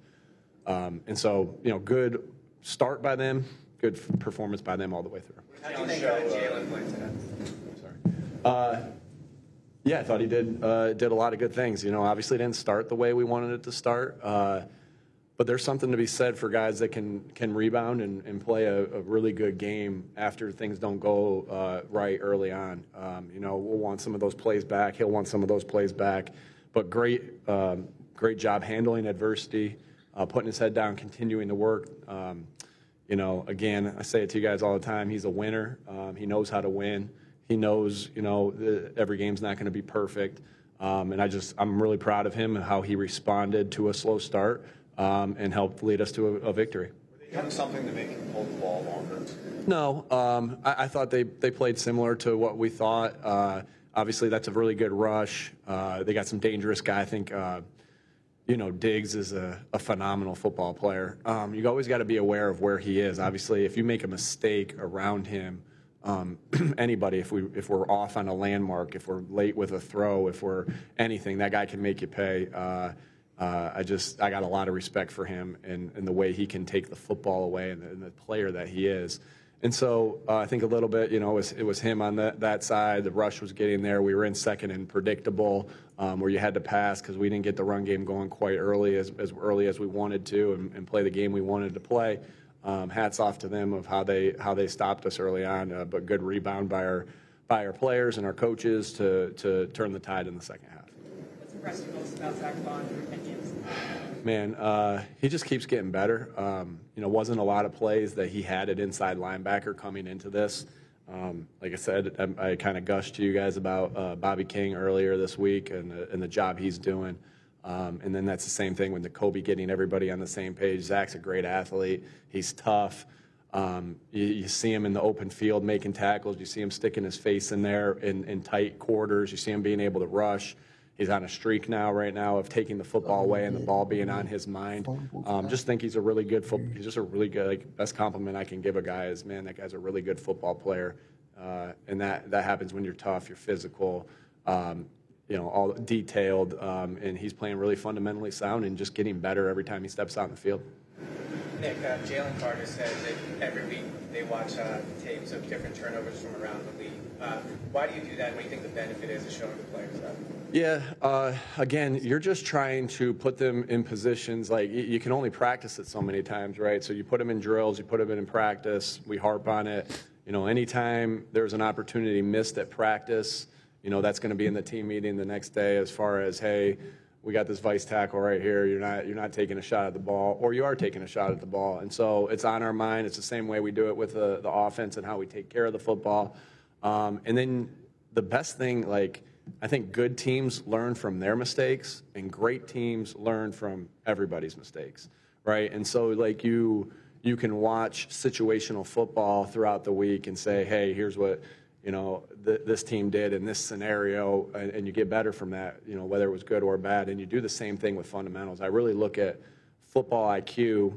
Um, and so, you know, good start by them, good f- performance by them all the way through. How do you think uh, Jalen played today? Sorry. Uh, yeah, I thought he did uh, did a lot of good things. You know, obviously didn't start the way we wanted it to start. Uh, But there's something to be said for guys that can can rebound and, and play a, a really good game after things don't go uh, right early on. Um, you know, we'll want some of those plays back. He'll want some of those plays back. But great, um, great job handling adversity, uh, putting his head down, continuing to work. Um, you know, again, I say it to you guys all the time. He's a winner. Um, he knows how to win. He knows, you know, the, every game's not going to be perfect. Um, and I just, I'm really proud of him and how he responded to a slow start. Um, and helped lead us to a, a victory. Were they doing something to make him hold the ball longer? No, um, I, I thought they, they played similar to what we thought. Uh, obviously, that's a really good rush. Uh, they got some dangerous guy. I think, uh, you know, Diggs is a, a phenomenal football player. Um, you always got to be aware of where he is. Obviously, if you make a mistake around him, um, anybody, if we if we're off on a landmark, if we're late with a throw, if we're anything, that guy can make you pay. Uh, Uh, I just I got a lot of respect for him and, and the way he can take the football away and the, and the player that he is. And so uh, I think a little bit, you know, it was, it was him on that, that side. The rush was getting there. We were in second and predictable um, where you had to pass because we didn't get the run game going quite early as, as early as we wanted to and, and play the game we wanted to play. Um, hats off to them of how they how they stopped us early on, uh, but good rebound by our by our players and our coaches to to turn the tide in the second half. What's impressed you most about Zach Bond through ten games? Man, uh, he just keeps getting better. Um, you know, wasn't a lot of plays that he had at inside linebacker coming into this. Um, like I said, I, I kind of gushed to you guys about uh, Bobby King earlier this week and the, and the job he's doing. Um, and then that's the same thing with Nakobe getting everybody on the same page. Zach's a great athlete. He's tough. Um, you, you see him in the open field making tackles. You see him sticking his face in there in, in tight quarters. You see him being able to rush. He's on a streak now, right now, of taking the football away and the ball being on his mind. Um, just think he's a really good football. He's just a really good. Like, best compliment I can give a guy is, man, that guy's a really good football player. Uh, and that that happens when you're tough, you're physical, um, you know, all detailed, um, and he's playing really fundamentally sound and just getting better every time he steps out in the field. Nick, uh, Jalen Carter said that every week they watch uh, tapes of different turnovers from around the league. Uh, why do you do that? What do you think the benefit is of showing the players that? Yeah, uh, again, you're just trying to put them in positions. Like, you can only practice it so many times, right? So you put them in drills, you put them in practice, we harp on it. You know, anytime there's an opportunity missed at practice, you know, that's going to be in the team meeting the next day as far as, hey, we got this vice tackle right here. You're not you're not taking a shot at the ball, or you are taking a shot at the ball. And so it's on our mind. It's the same way we do it with the, the offense and how we take care of the football. Um, and then the best thing, like, I think good teams learn from their mistakes, and great teams learn from everybody's mistakes, right? And so, like, you you can watch situational football throughout the week and say, hey, here's what, you know, th- this team did in this scenario, and, and you get better from that, you know, whether it was good or bad. And you do the same thing with fundamentals. I really look at football I Q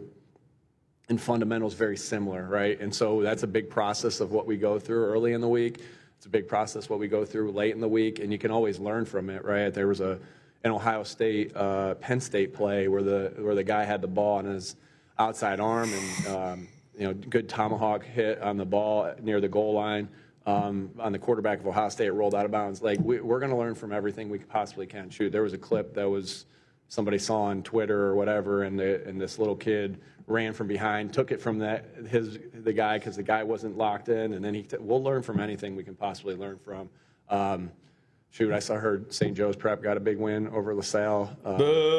and fundamentals very similar, right? And so that's a big process of what we go through early in the week. It's a big process what we go through late in the week, and you can always learn from it, right? There was a an Ohio State, uh, Penn State play where the where the guy had the ball on his outside arm, and um, you know, good tomahawk hit on the ball near the goal line. Um, on the quarterback of Ohio State, rolled out of bounds. Like, we, we're going to learn from everything we possibly can. Shoot, there was a clip that was somebody saw on Twitter or whatever, and the, and this little kid ran from behind, took it from that his the guy because the guy wasn't locked in, and then he t- we'll learn from anything we can possibly learn from. Um, shoot, I saw heard Saint Joe's Prep got a big win over LaSalle. Uh,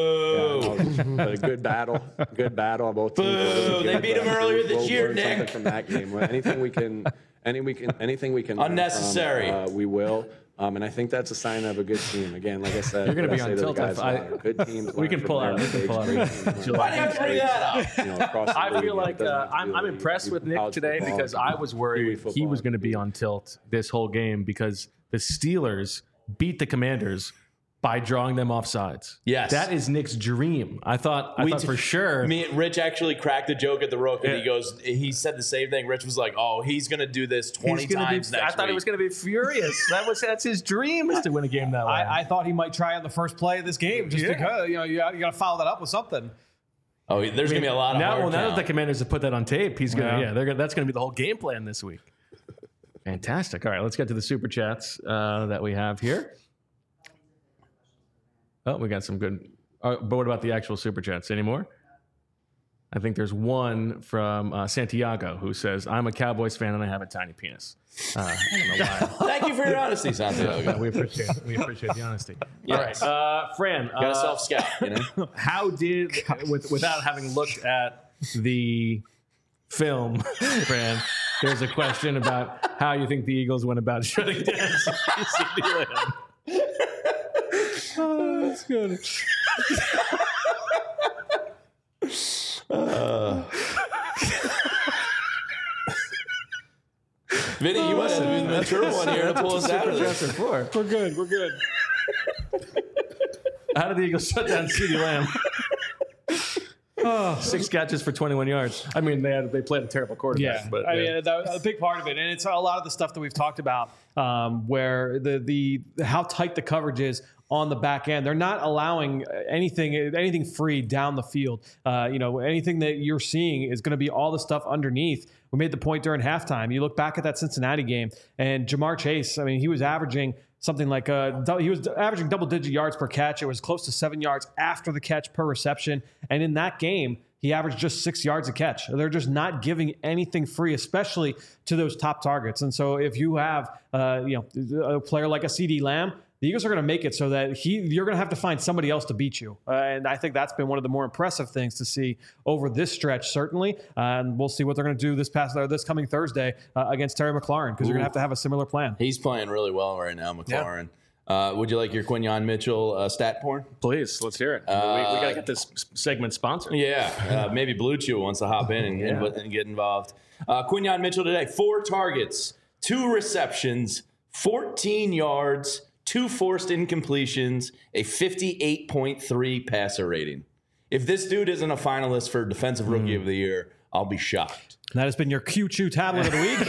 Boo! Yeah, no, a good battle, good battle on both teams. Boo! They beat them earlier we'll, this we'll year, learn Nick. Something from that game. Anything we can, any we can, anything we can. learn from, Unnecessary. uh, we will. Um, and I think that's a sign of a good team. Again, like I said, You're gonna what be I on say to the tilt. guys I- a lot, good teams. We learn can from pull their out- we can mistakes, pull out- great teams learn Why from do you have to their bring that mistakes, you know, across the I league, feel and it like doesn't uh, have to I'm, be I'm the league. impressed It with could be Nick college today football, because it could I be was Kiwi worried he football, was it going to could be on tilt this whole game because the Steelers beat the Commanders by drawing them off sides. Yes. That is Nick's dream. I thought, I We thought t- for sure. Me, Rich actually cracked a joke at the Rook, and Yeah. he goes, he said the same thing. Rich was like, "Oh, he's gonna do this twenty he's gonna times be, next I thought week." he was going to be furious. That was that's his dream is to win a game that way. I, I thought he might try on the first play of this game just Yeah. because you know you, got- you got to follow that up with something. Oh, there's gonna be a lot of now, hard well, now that count. the Commanders have put that on tape, he's gonna Yeah. yeah, they're gonna, that's gonna be the whole game plan this week. Fantastic. All right, let's get to the super chats uh, that we have here. Oh, we got some good. Uh, but what about the actual super chats? Any more? I think there's one from uh, Santiago who says, "I'm a Cowboys fan and I have a tiny penis." Uh, I don't know why. Thank you for your honesty, Santiago. we appreciate we appreciate the honesty. Yes. All right, uh, Fran. Got a uh, self scout, you know. How did, with, without having looked at the film, Fran, there's a question about how you think the Eagles went about shutting down CeeDee Lamb. Oh, that's good. Vinny, you must have been the mature one here to pull us out of this. For. We're good. We're good. How did the Eagles shut down CeeDee Lamb? Oh, six catches for twenty-one yards. I mean, they had they played a terrible quarterback. Yeah, but I yeah. mean, that, a big part of it, and it's a lot of the stuff that we've talked about, um, where the the how tight the coverage is on the back end. They're not allowing anything anything free down the field. Uh, you know, anything that you're seeing is going to be all the stuff underneath. We made the point during halftime. You look back at that Cincinnati game, and Jamar Chase. I mean, he was averaging something like uh, he was averaging double-digit yards per catch. It was close to seven yards after the catch per reception. And in that game, he averaged just six yards a catch. They're just not giving anything free, especially to those top targets. And so if you have uh, you know a player like a CeeDee Lamb, the Eagles are going to make it so that he you're going to have to find somebody else to beat you. Uh, and I think that's been one of the more impressive things to see over this stretch, certainly. Uh, and we'll see what they're going to do this past uh, this coming Thursday uh, against Terry McLaurin, because you're going to have to have a similar plan. He's playing really well right now, McLaurin. Uh, would you like your Quinyon Mitchell uh, stat porn? Please, let's hear it. we, we got to get this s- segment sponsored. Yeah, uh, maybe Blue Chew wants to hop in and, Yeah. and, and get involved. Uh, Quinyon Mitchell today, four targets, two receptions, fourteen yards, two forced incompletions, a fifty-eight point three passer rating. If this dude isn't a finalist for Defensive Rookie of the Year, I'll be shocked. And that has been your Q Chew tablet of the week.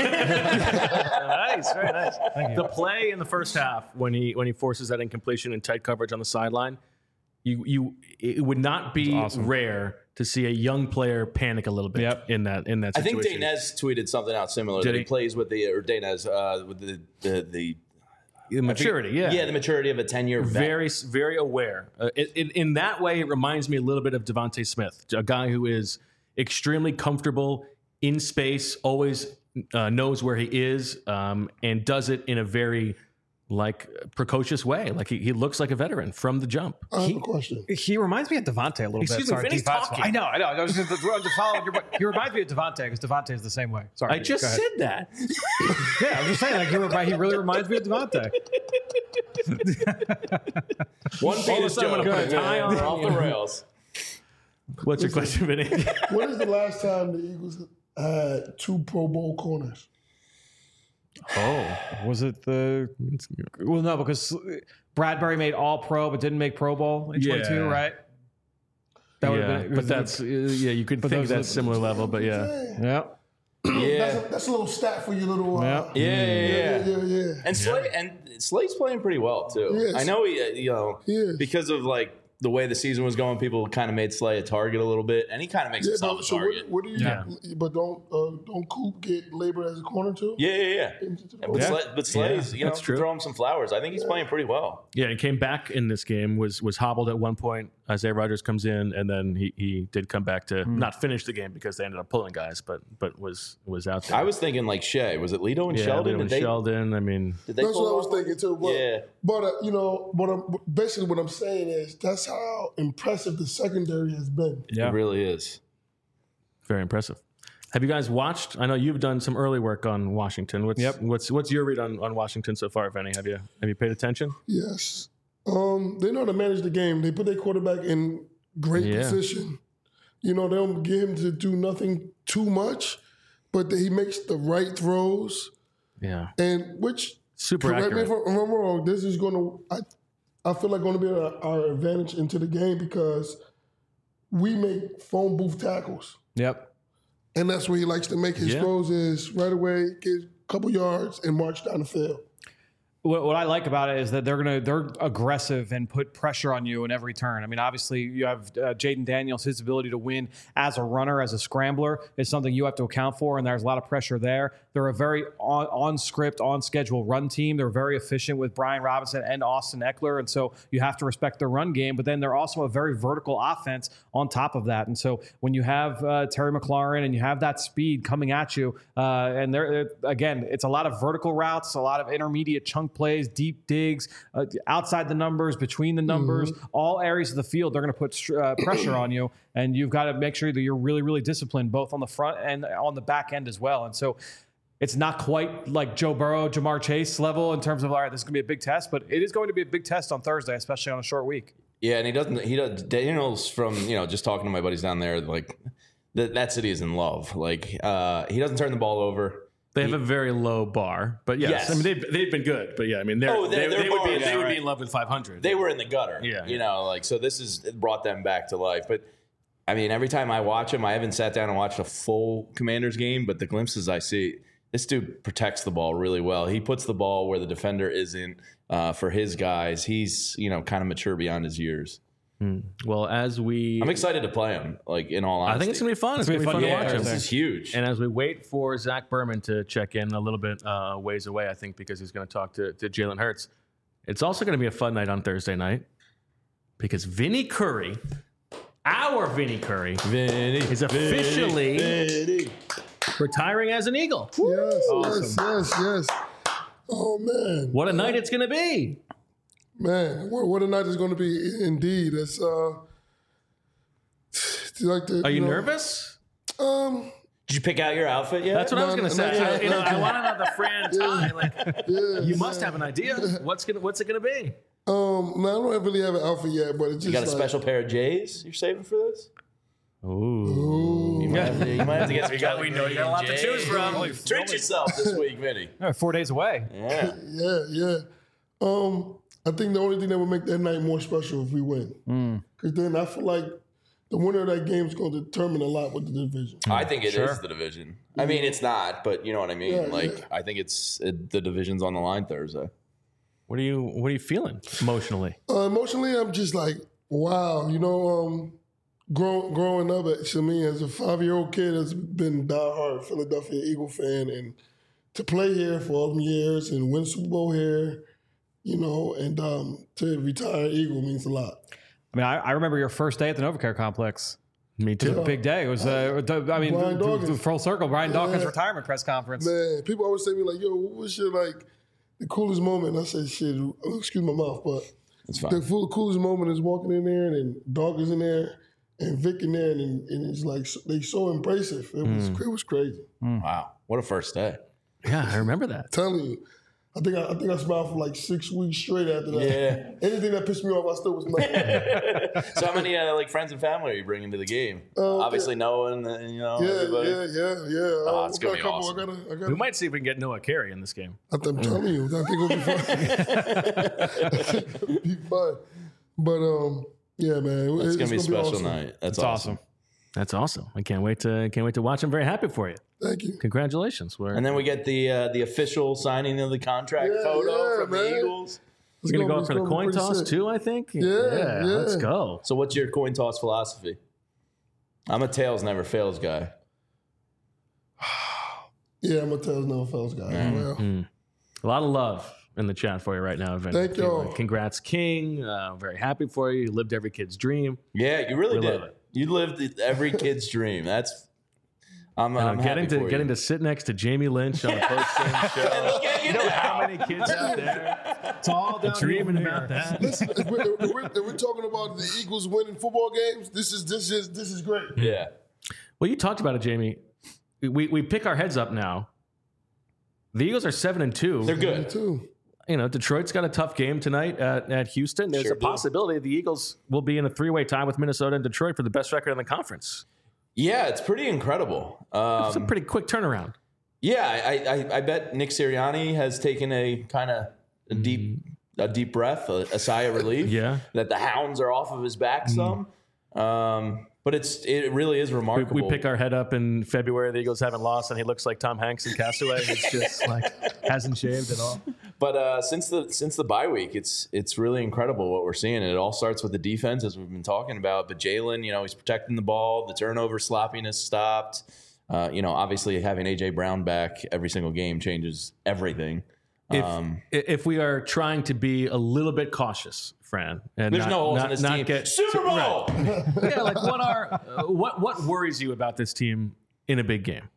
Nice, very nice. The play in the first half when he when he forces that incompletion and tight coverage on the sideline, you you it would not be rare to see a young player panic a little bit Yep. in that in that I think situation. Dainez tweeted something out similar Did that he? he? plays with the or Dainez uh, with the the, the The maturity, yeah. yeah the maturity of a ten year vet. very very aware. Uh, it, it, in that way, it reminds me a little bit of Devontae Smith, a guy who is extremely comfortable in space, always uh, knows where he is, um, and does it in a very like precocious way. Like he, he looks like a veteran from the jump. I have a question. He reminds me of Devontae a little Excuse bit. me, Sorry, Vinny's defense- talking. I know, I know. I was just to follow your, he reminds me of Devontae because Devontae is the same way. Sorry, I just go ahead. said that. Yeah, I'm just saying. Like he, remi- he really reminds me of Devontae. One penis sudden, I'm joke. gonna put a tie on. off the rails. What's your question, Vinny? When is the last time the Eagles had two Pro Bowl corners? Oh, was it the? Well, no, because Bradbury made All Pro but didn't make Pro Bowl in twenty-two, Yeah. right? That would've Yeah, been- but that's uh, yeah. You could think those are that's the- similar level, but yeah. Yeah. yeah. Yeah. That's a, that's a little stat for your little. Uh, Yeah. Yeah, yeah, yeah. yeah, yeah, yeah. And Slade and Slade's playing pretty well too. Yes. I know he, uh, you know, He is. because of like the way the season was going, people kind of made Slade a target a little bit, and he kind of makes Yeah, himself but, a so target. what, what do you? Yeah. But don't uh, don't Coop get labeled as a corner too? yeah, yeah, yeah. But, Yeah. Slade, but Slade's, Yeah, you know, that's true. throw him some flowers. I think he's playing pretty well. Yeah, he came back in this game. was was hobbled at one point. Isaiah Rodgers comes in, and then he, he did come back to not finish the game because they ended up pulling guys, but but was was out there. I was thinking like Shea. Was it Lito and yeah, Sheldon? Lito and Did they, Sheldon. I mean, did they That's pull what I was off? thinking too. But, Yeah. but uh, you know, but I'm, basically what I'm saying is that's how impressive the secondary has been. It really is. very impressive. Have you guys watched? I know you've done some early work on Washington. What's Yep. what's what's your read on, on Washington so far, if any? Have you have you paid attention? Yes. Um, they know how to manage the game. They put their quarterback in great Yeah. position. You know, they don't get him to do nothing too much, but he makes the right throws. Yeah. And which, Super correct accurate. me if I'm wrong, this is going to, I, I feel like going to be our, our advantage into the game because we make phone booth tackles. Yep. And that's where he likes to make his Yeah. throws is right away, get a couple yards and march down the field. What, what I like about it is that they're gonna they're aggressive and put pressure on you in every turn. I mean, obviously you have uh, Jaden Daniels. His ability to win as a runner, as a scrambler, is something you have to account for, and there's a lot of pressure there. They're a very on, on script, on schedule run team. They're very efficient with Brian Robinson and Austin Eckler, and so you have to respect their run game. But then they're also a very vertical offense on top of that. And so when you have uh, Terry McLaurin and you have that speed coming at you, uh, and they're again, it's a lot of vertical routes, a lot of intermediate chunk plays, deep digs, uh, outside the numbers, between the numbers, mm-hmm. all areas of the field. They're going to put uh, pressure on you, and you've got to make sure that you're really, really disciplined, both on the front and on the back end as well. And so it's not quite like Joe Burrow, Jamar Chase level in terms of, all right, this is going to be a big test, but it is going to be a big test on Thursday, especially on a short week. Yeah, and he doesn't. He does. Daniels, from you know, just talking to my buddies down there, like that, that city is in love. Like uh, he doesn't turn the ball over. They have a very low bar, but yes, Yes. I mean they've, they've been good, but yeah, I mean they're, Oh, they, they're- they would be they're they bar, would yeah, be right. in love with five hundred. They were in the gutter. Yeah, you yeah. know, like so. This is it brought them back to life. But I mean, every time I watch him, I haven't sat down and watched a full Commanders game, but the glimpses I see, this dude protects the ball really well. He puts the ball where the defender isn't. Uh, for his guys, he's you know kind of mature beyond his years. Well, as we, I'm excited to play him. Like in all honesty, I think it's gonna be fun. It's, gonna gonna be be fun fun to to watch watch. him. This is huge. And as we wait for Zach Berman to check in a little bit uh, ways away, I think because he's going to talk to, to Jalen Hurts, it's also going to be a fun night on Thursday night because Vinny Curry, our Vinny Curry, Vinny, is officially Vinny. retiring as an Eagle. Yes, yes, yes, yes. Oh, man. What a night it's going to be. Man, what, what a night it's going to be indeed. It's, uh, it's like the, Are you know, nervous? Um, Did you pick out your outfit yet? That's what I was No, going to no, say. no, I, you know, no. I want to know the Fran tie. Like, yeah, you must yeah. have an idea. What's gonna What's it going to be? Um, no, I don't really have an outfit yet, but it's just You got a like, special pair of J's you're saving for this? Ooh. You might have to, you might have to get some got- we know you got a lot to choose from. Treat yourself this week, Vinny. Yeah, four days away. Yeah. Yeah, yeah. Um, I think the only thing that would make that night more special if we win, because then I feel like the winner of that game is going to determine a lot with the division. I think it is Sure. the division. I mean, it's not, but you know what I mean. Yeah, like, yeah. I think it's it, the division's on the line Thursday. What are you What are you feeling emotionally? Uh, emotionally, I'm just like, wow, you know, um, grow, growing up, to me as a five-year-old kid that's been diehard Philadelphia Eagle fan, and to play here for all them years and win Super Bowl here, you know, and um, to retire Eagle means a lot. I mean, I, I remember your first day at the Novacare complex. Me It was too. a big day. It was, uh, I mean, Brian the, the, Dawkins. the full circle. Brian Dawkins' Yeah. retirement press conference. Man, people always say to me like, "Yo, what's your like the coolest moment?" I said, "Shit, excuse my mouth, but It's the fine. full coolest moment is walking in there and then Dog is in there and Vic in there, and, and it's like so- they so embracive. It was it was crazy. Wow. What a first day. Yeah, I remember that. telling you, I think I, I think I smiled for like six weeks straight after that. Yeah. Anything that pissed me off, I still was mad. So how many uh, like friends and family are you bringing to the game? Uh, Obviously, Noah and uh, you know yeah, everybody. yeah, yeah, yeah. Oh, Uh, it's I got gonna a be couple. awesome. I got. I got. We might see if we can get Noah Carey in this game. I'm telling you, I think it'll be fun. It'll be fun. But um, yeah, man, It's it's gonna be a special awesome. night. That's It's awesome. awesome. That's awesome. I can't wait to can't wait to watch. I'm very happy for you. Thank you. Congratulations. We're, And then we get the uh, the official signing of the contract Yeah, photo yeah, from man. the Eagles. It's we're gonna go it's for the be coin pretty toss sick. too. I think. Yeah, yeah. Let's go. So what's your coin toss philosophy? I'm a tails never fails guy. Yeah, I'm a Tails Never Fails guy. Well, A lot of love in the chat for you right now, Vinny. Thank y'all. Congrats, King. Uh, very happy for you. You lived every kid's dream. Yeah, you really We did. love it. You lived every kid's dream. That's I'm, And I'm I'm getting happy to for getting you. to sit next to Jamie Lynch on a post game show. You know how many kids out there It's all down dreaming about that? listen, if we're, if, we're, if we're talking about the Eagles winning football games, this is this is this is great. Yeah. Well, you talked about it, Jamie. we we pick our heads up now. The Eagles are seven and two. They're good. Too. You know, Detroit's got a tough game tonight at, at Houston. There's Sure a do. possibility the Eagles will be in a three-way tie with Minnesota and Detroit for the best record in the conference. Yeah, it's pretty incredible. Um, It's a pretty quick turnaround. Yeah, I, I, I bet Nick Sirianni has taken a kind of a deep a deep breath, a, a sigh of relief. Yeah. That the hounds are off of his back some. Um, but it's it really is We, remarkable. we pick our head up in February. The Eagles haven't lost, and he looks like Tom Hanks in Castaway. It's just like hasn't shaved at all. But uh, since the since the bye week, it's it's really incredible what we're seeing. And it all starts with the defense, as we've been talking about. But Jalen, you know, he's protecting the ball. The turnover sloppiness stopped. Uh, you know, obviously having A J Brown back every single game changes everything. If, Um, if we are trying to be a little bit cautious, Fran, and There's not, no holes not, in this not team. get Super Bowl. Right. Yeah, like what are uh, what what worries you about this team in a big game?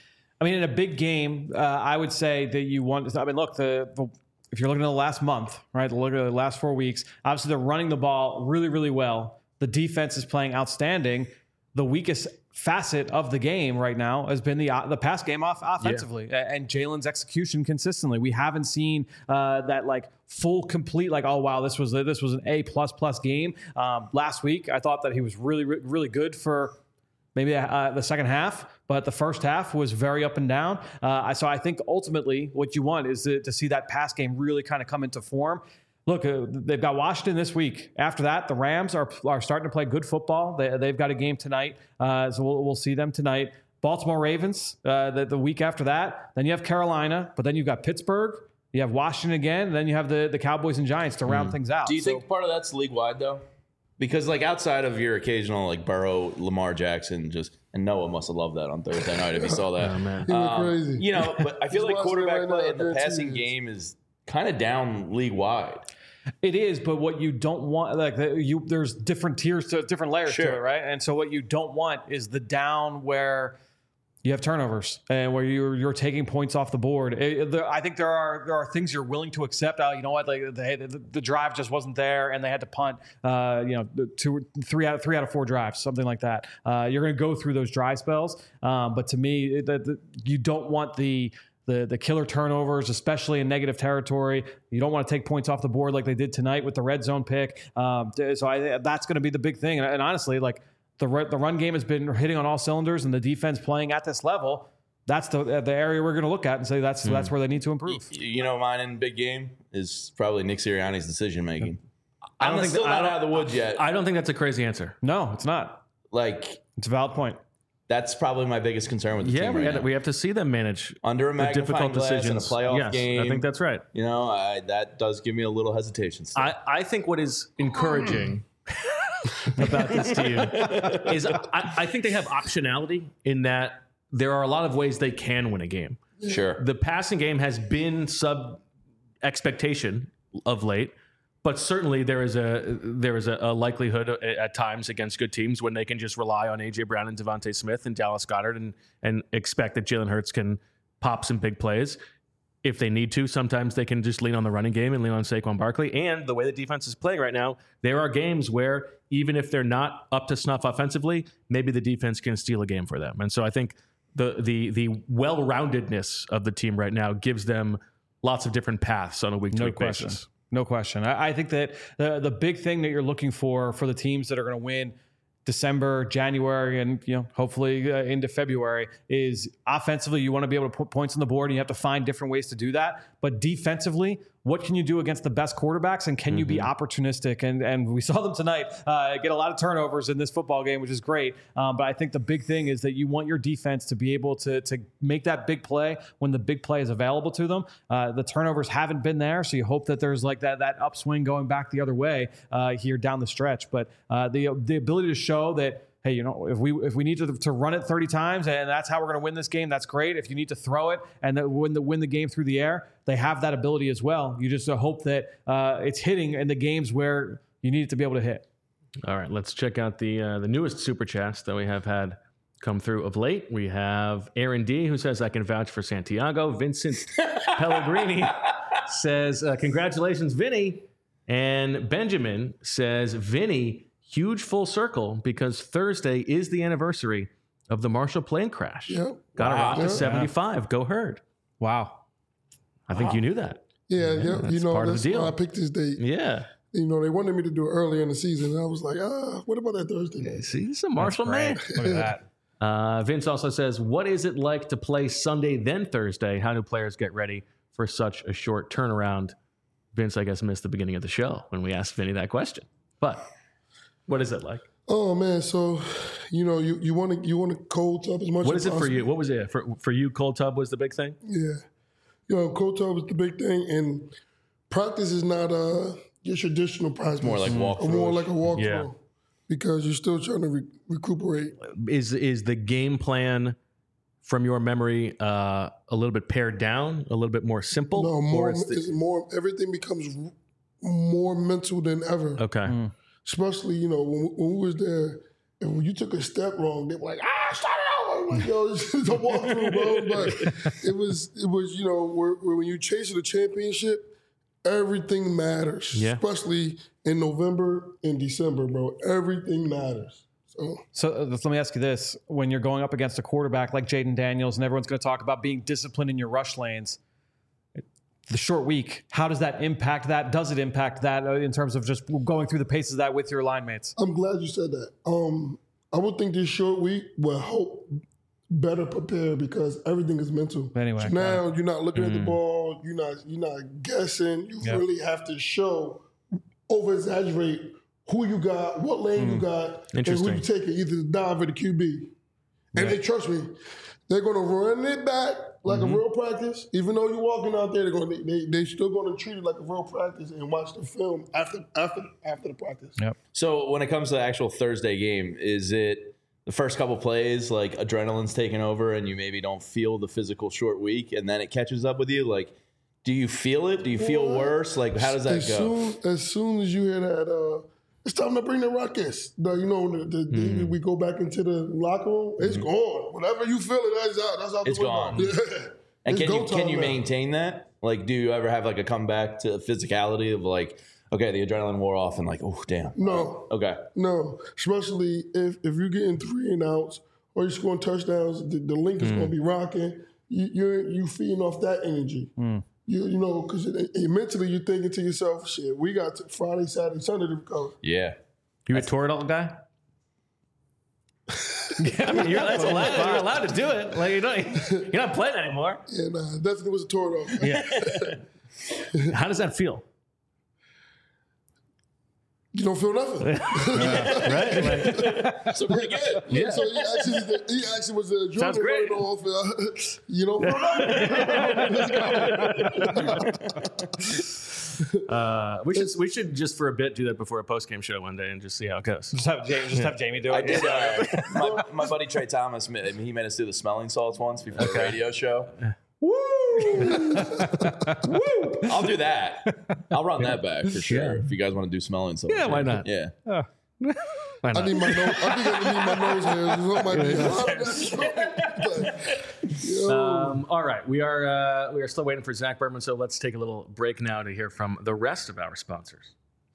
I mean, in a big game, uh, I would say that you want. I mean, look, the, the if you're looking at the last month, right? Look at the last four weeks. Obviously, they're running the ball really, really well. The defense is playing outstanding. The weakest facet of the game right now has been the uh, the pass game off offensively yeah. and Jalen's execution consistently. We haven't seen uh, that like full complete like, oh wow, this was this was an A plus plus game. Um, last week, I thought that he was really really good for maybe uh, the second half, but the first half was very up and down. Uh, so I think ultimately what you want is to, to see that pass game really kind of come into form. Look, uh, they've got Washington this week. After that, the Rams are are starting to play good football. They, they've got a game tonight, uh, so we'll, we'll see them tonight. Baltimore Ravens uh, the, the week after that. Then you have Carolina, but then you've got Pittsburgh. You have Washington again. And then you have the, the Cowboys and Giants to round mm. things out. Do you so, think part of that's league wide though? Because like outside of your occasional like Burrow, Lamar Jackson, just and Noah must have loved that on Thursday night if he saw that. Oh, man. He went Um, crazy. You know, but I feel He's like watching it quarterback right play now, in the guarantee passing it. game is kind of down league wide. It is, but what you don't want, like the, you, there's different tiers to different layers Sure. to it, right? And so what you don't want is the down where you have turnovers and where you're you're taking points off the board. It, the, I think there are there are things you're willing to accept. Oh, you know what? Like the, the, the drive just wasn't there, and they had to punt. Uh, you know, two, three out of three out of four drives, something like that. Uh, you're going to go through those drive spells, um, but to me, the, the, you don't want the The, the killer turnovers, especially in negative territory. You don't want to take points off the board like they did tonight with the red zone pick. Um, so I, that's going to be the big thing. And, and honestly, like the the run game has been hitting on all cylinders, and the defense playing at this level. That's the the area we're going to look at and say that's mm. that's where they need to improve. You know, mine in big game is probably Nick Sirianni's decision making. I don't I'm think still that, not out of the woods yet. I don't think that's a crazy answer. No, it's not. Like it's a valid point. That's probably my biggest concern with the yeah, team we, right had, now. we have to see them manage Under a the magnifying difficult glass decisions. in a playoff yes, game. I think that's right. You know, I, that does give me a little hesitation still. I, I think what is encouraging about this team is I, I think they have optionality in that there are a lot of ways they can win a game. Sure. The passing game has been sub expectation of late, but certainly there is a there is a, a likelihood at times against good teams when they can just rely on A J Brown and Devontae Smith and Dallas Goedert and and expect that Jalen Hurts can pop some big plays. If they need to, sometimes they can just lean on the running game and lean on Saquon Barkley. And the way the defense is playing right now, there are games where even if they're not up to snuff offensively, maybe the defense can steal a game for them. And so I think the the the well-roundedness of the team right now gives them lots of different paths on a week-to-week basis. No question. I, I think that the the big thing that you're looking for for the teams that are going to win December, January, and you know hopefully uh, into February is offensively. You want to be able to put points on the board, and you have to find different ways to do that. But defensively, what can you do against the best quarterbacks, and can mm-hmm. you be opportunistic? And and we saw them tonight uh, get a lot of turnovers in this football game, which is great. Um, but I think the big thing is that you want your defense to be able to to make that big play when the big play is available to them. Uh, the turnovers haven't been there, so you hope that there's like that that upswing going back the other way uh, here down the stretch. But uh, the the ability to show that, hey, you know, if we if we need to, to run it thirty times and that's how we're going to win this game, that's great. If you need to throw it and then win the win the game through the air, they have that ability as well. You just uh, hope that uh, it's hitting in the games where you need it to be able to hit. All right, let's check out the uh, the newest super chats that we have had come through of late. We have Aaron D, who says, I can vouch for Santiago. Vincent Pellegrini says, uh, congratulations, Vinny. And Benjamin says, Vinny, huge full circle because Thursday is the anniversary of the Marshall plane crash. Yep. Got Wow. a rock to Yeah. seventy-five. Go Herd. Wow. I think you knew that. Yeah, yeah. that's You know, part of that's the deal. why I picked this date. Yeah. You know, they wanted me to do it earlier in the season, and I was like, ah, what about that Thursday night? See, he's a Marshall man. Look at that. Uh, Vince also says, what is it like to play Sunday, then Thursday? How do players get ready for such a short turnaround? Vince, I guess, missed the beginning of the show when we asked Vinny that question. But what is it like? Oh man, so you know, you you want to you want to cold tub as much. What as is it for possible. you? What was it? For, for you, cold tub was the big thing? Yeah, you know, cold tub is the big thing, and practice is not uh your traditional practice. more like walkthrough. More like a walkthrough. Yeah. Because you're still trying to re- recuperate. Is is the game plan from your memory uh, a little bit pared down, a little bit more simple? No, Or more it's the- it's more. Everything becomes r- more mental than ever. okay. Especially, you know, when, when we was there, and when you took a step wrong, they were like, ah, start it over. I'm like, yo, this is a walkthrough, bro. But it was, it was, you know, where, where when you chase the championship, everything matters. Yeah. Especially in November and December, bro. Everything matters. So So uh, let me ask you this. When you're going up against a quarterback like Jaden Daniels, and everyone's going to talk about being disciplined in your rush lanes, the short week, how does that impact that? Does it impact that uh, in terms of just going through the paces of that with your line mates? I'm glad you said that. Um, I would think this short week will help better prepare because everything is mental. Anyway, so got now you're not looking at the ball, you're not you're not guessing. You Yep. really have to show, over exaggerate who you got, what lane you got, and who Interesting. you taking, either the dive or the Q B. And they trust me, they're gonna run it back like a real practice. Even though you're walking out there, they're gonna they they still gonna treat it like a real practice and watch the film after after after the practice. Yep. So when it comes to the actual Thursday game, is it the first couple plays like adrenaline's taking over and you maybe don't feel the physical short week and then it catches up with you? Like, do you feel it? Do you feel Well, worse? Like, how does that as go? Soon, as soon as you hear that, uh, it's time to bring the ruckus. The, you know, the, the, Mm-hmm. the, we go back into the locker room. It's gone. Whatever you feel it, that's out. That's out It's the window. gone. Yeah. And It's can you go can time you now. maintain that? Like, do you ever have like a comeback to physicality of like, okay, the adrenaline wore off and like, oh damn. No, Okay. no. Especially if if you're getting three and outs or you're scoring touchdowns, the, the link is going to be rocking. You, you're you feeding off that energy. You you know because mentally you're thinking to yourself, shit, we got to Friday, Saturday, Sunday to recover. Yeah. You a Toradol guy? I mean, you're, that's allowed, you're allowed to do it. Like you don't, you're not playing anymore. And uh, definitely was a tour though. Yeah. How does that feel? You don't feel nothing. Right? Like, So pretty good. Yeah. So he actually, he actually was a Sounds adrenaline great. running off. Uh, you know, uh, we should we should just for a bit do that before a post game show one day and just see how it goes. Just have Jamie, just have Jamie do it. I did. Uh, my, my buddy Trey Thomas, ma- he made us do the smelling salts once before the radio show. Woo! Woo! I'll do that. I'll run that back for sure. If you guys want to do smelling salts. Yeah, why not? Yeah. Why I not? need my nose. I think I need my nose hairs. Something might be. Yo. Um, all right, we are uh, we are still waiting for Zach Berman, so let's take a little break now to hear from the rest of our sponsors.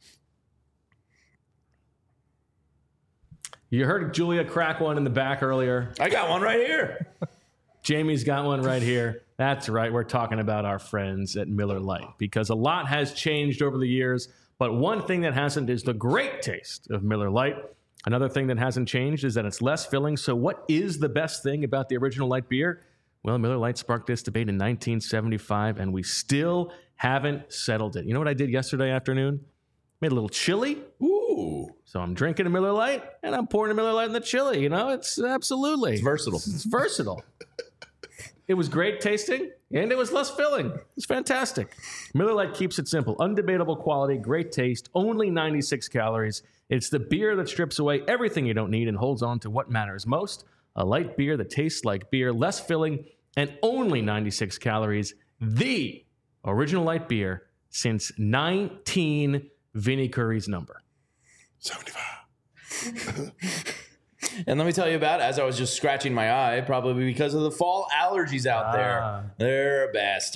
You heard Julia crack one in the back earlier. I got one right here. Jamie's got one right here. That's right. We're talking about our friends at Miller Lite because a lot has changed over the years, but one thing that hasn't is the great taste of Miller Lite. Another thing that hasn't changed is that it's less filling. So what is the best thing about the original light beer? Well, Miller Lite sparked this debate in nineteen seventy-five, and we still haven't settled it. You know what I did yesterday afternoon? Made a little chili. Ooh. So I'm drinking a Miller Lite, and I'm pouring a Miller Lite in the chili. You know, it's absolutely. It's versatile. It's versatile. It was great tasting, and it was less filling. It's fantastic. Miller Lite keeps it simple. Undebatable quality, great taste, only ninety-six calories. It's the beer that strips away everything you don't need and holds on to what matters most. A light beer that tastes like beer, less filling, and only ninety-six calories. The original light beer since nineteen Vinnie Curry's number. seventy-five. And let me tell you about it. As I was just scratching my eye, probably because of the fall allergies out Ah. there. They're a bastard.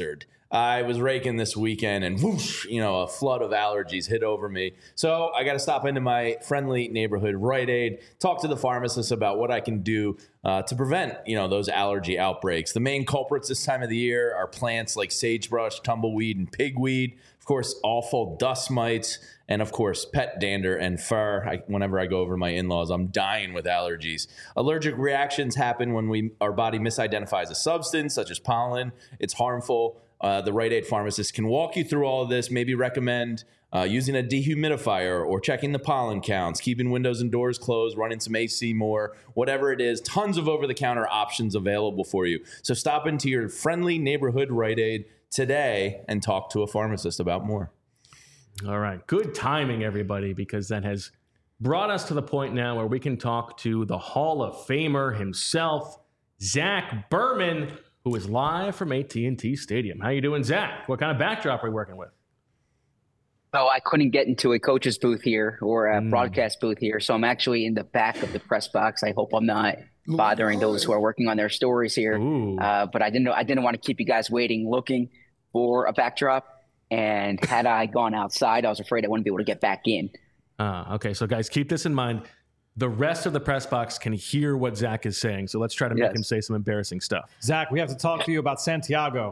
I was raking this weekend and whoosh, you know, a flood of allergies hit over me. So I got to stop into my friendly neighborhood Rite Aid, talk to the pharmacist about what I can do uh, to prevent, you know, those allergy outbreaks. The main culprits this time of the year are plants like sagebrush, tumbleweed, and pigweed. Of course, awful dust mites, and of course, pet dander and fur. I, whenever I go over to my in-laws, I'm dying with allergies. Allergic reactions happen when we our body misidentifies a substance, such as pollen. It's harmful. Uh, the Rite Aid pharmacist can walk you through all of this, maybe recommend uh, using a dehumidifier or checking the pollen counts, keeping windows and doors closed, running some A C more, whatever it is. Tons of over-the-counter options available for you. So stop into your friendly neighborhood Rite Aid today and talk to a pharmacist about more. All right. Good timing, everybody, because that has brought us to the point now where we can talk to the Hall of Famer himself, Zach Berman, who is live from A T and T Stadium. How you doing, Zach? What kind of backdrop are we working with? So I couldn't get into a coach's booth here or a Mm. broadcast booth here, so I'm actually in the back of the press box. I hope I'm not bothering those who are working on their stories here. Uh, but I didn't know I didn't want to keep you guys waiting, looking for a backdrop. And had I gone outside, I was afraid I wouldn't be able to get back in. Uh, okay, so guys, keep this in mind. The rest of the press box can hear what Zach is saying, so let's try to make Yes. him say some embarrassing stuff. Zach, we have to talk to you about Santiago.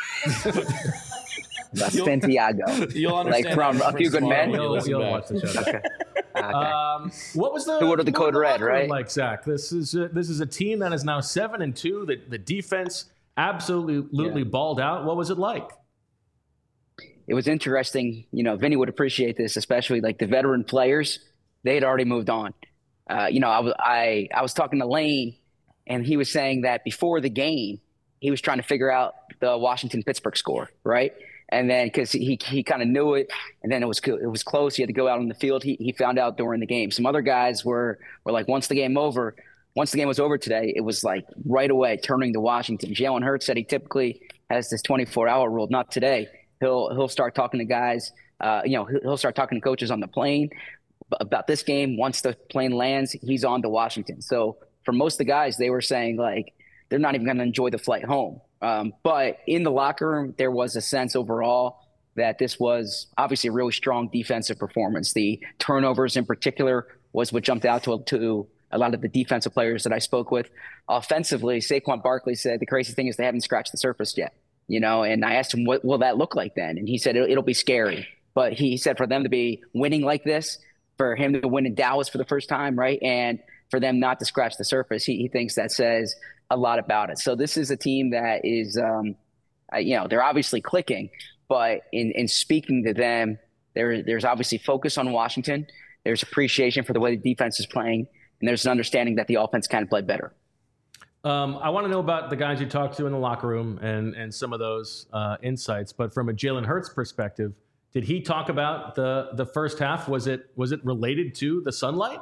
About Santiago. You'll understand Like from that A Few Good tomorrow Men? when you You'll, listen you'll back. watch the show. Okay. Okay. Um, what was the Who ordered the what code was red, locker room right? like, Zach? This is a, this is a team that is now seven and two. The, the defense absolutely, absolutely Yeah. balled out. What was it like? It was interesting. You know, Vinny would appreciate this, especially like the veteran players. They had already moved on. Uh, you know, I was I I was talking to Lane, and he was saying that before the game, he was trying to figure out the Washington Pittsburgh score, right? And then because he he kind of knew it, and then it was it was close. He had to go out on the field. He he found out during the game. Some other guys were were like, once the game over, once the game was over today, it was like right away turning to Washington. Jalen Hurts said he typically has this twenty-four hour rule. Not today. He'll he'll start talking to guys. Uh, you know, he'll he'll start talking to coaches on the plane about this game. Once the plane lands, he's on to Washington. So for most of the guys, they were saying like they're not even going to enjoy the flight home. Um, but in the locker room, there was a sense overall that this was obviously a really strong defensive performance. The turnovers in particular was what jumped out to, to a lot of the defensive players that I spoke with. Offensively, Saquon Barkley said the crazy thing is they haven't scratched the surface yet. You know, and I asked him, what will that look like then? And he said, it'll, it'll be scary. But he said for them to be winning like this, for him to win in Dallas for the first time, right? And for them not to scratch the surface, he, he thinks that says a lot about it. So this is a team that is, um, uh, you know, they're obviously clicking, but in, in speaking to them, there, there's obviously focus on Washington. There's appreciation for the way the defense is playing, and there's an understanding that the offense can play better. Um, I want to know about the guys you talked to in the locker room and and some of those uh, insights. But from a Jalen Hurts perspective, did he talk about the the first half? Was it was it related to the sunlight?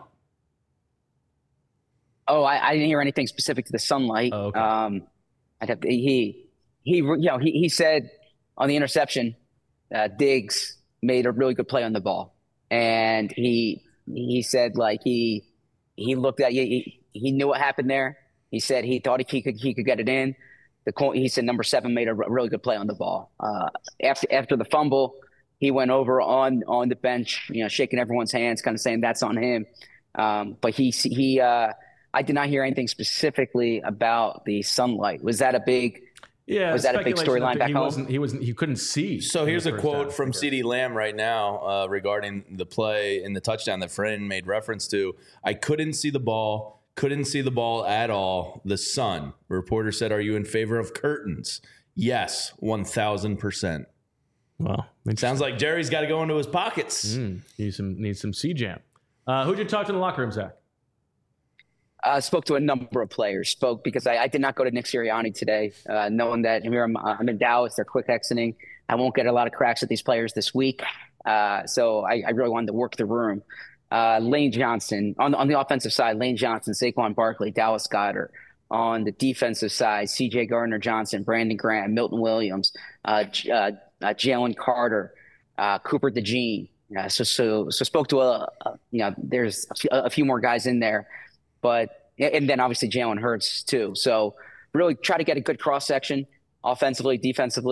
Oh, I, I didn't hear anything specific to the sunlight. Oh, okay. Um, I'd have to, he he you know he he said on the interception, uh, Diggs made a really good play on the ball, and he he said like he he looked at he he knew what happened there. He said he thought he could he could get it in. The he said number seven made a really good play on the ball. Uh, after after the fumble, he went over on on the bench, you know, shaking everyone's hands, kind of saying that's on him. Um, but he he uh, I did not hear anything specifically about the sunlight. Was that a big? Yeah, Was that a big speculation storyline that back he home? wasn't he wasn't he couldn't see. So in here's the a first quote half. from CeeDee Lamb right now uh, regarding the play in the touchdown that Fran made reference to. I couldn't see the ball. Couldn't see the ball at all. The sun. A reporter said, "Are you in favor of curtains?" Yes, one thousand percent. Well, Sounds like Jerry's got to go into his pockets. mm, needs some needs some C jam. Uh, who'd you talk to in the locker room, Zach? I uh, spoke to a number of players. Spoke because I, I did not go to Nick Sirianni today, uh, knowing that here I'm, I'm in Dallas. They're quick exiting. I won't get a lot of cracks at these players this week. Uh, so I, I really wanted to work the room. Uh, Lane Johnson on on the offensive side. Lane Johnson, Saquon Barkley, Dallas Goedert. On the defensive side, C J Gardner Johnson, Brandon Graham, Milton Williams, uh, uh, uh, Jalen Carter, uh, Cooper DeJean. Uh, so so so spoke to a, a you know there's a few, a few more guys in there. But and then obviously Jalen Hurts too. So really try to get a good cross section, offensively, defensively.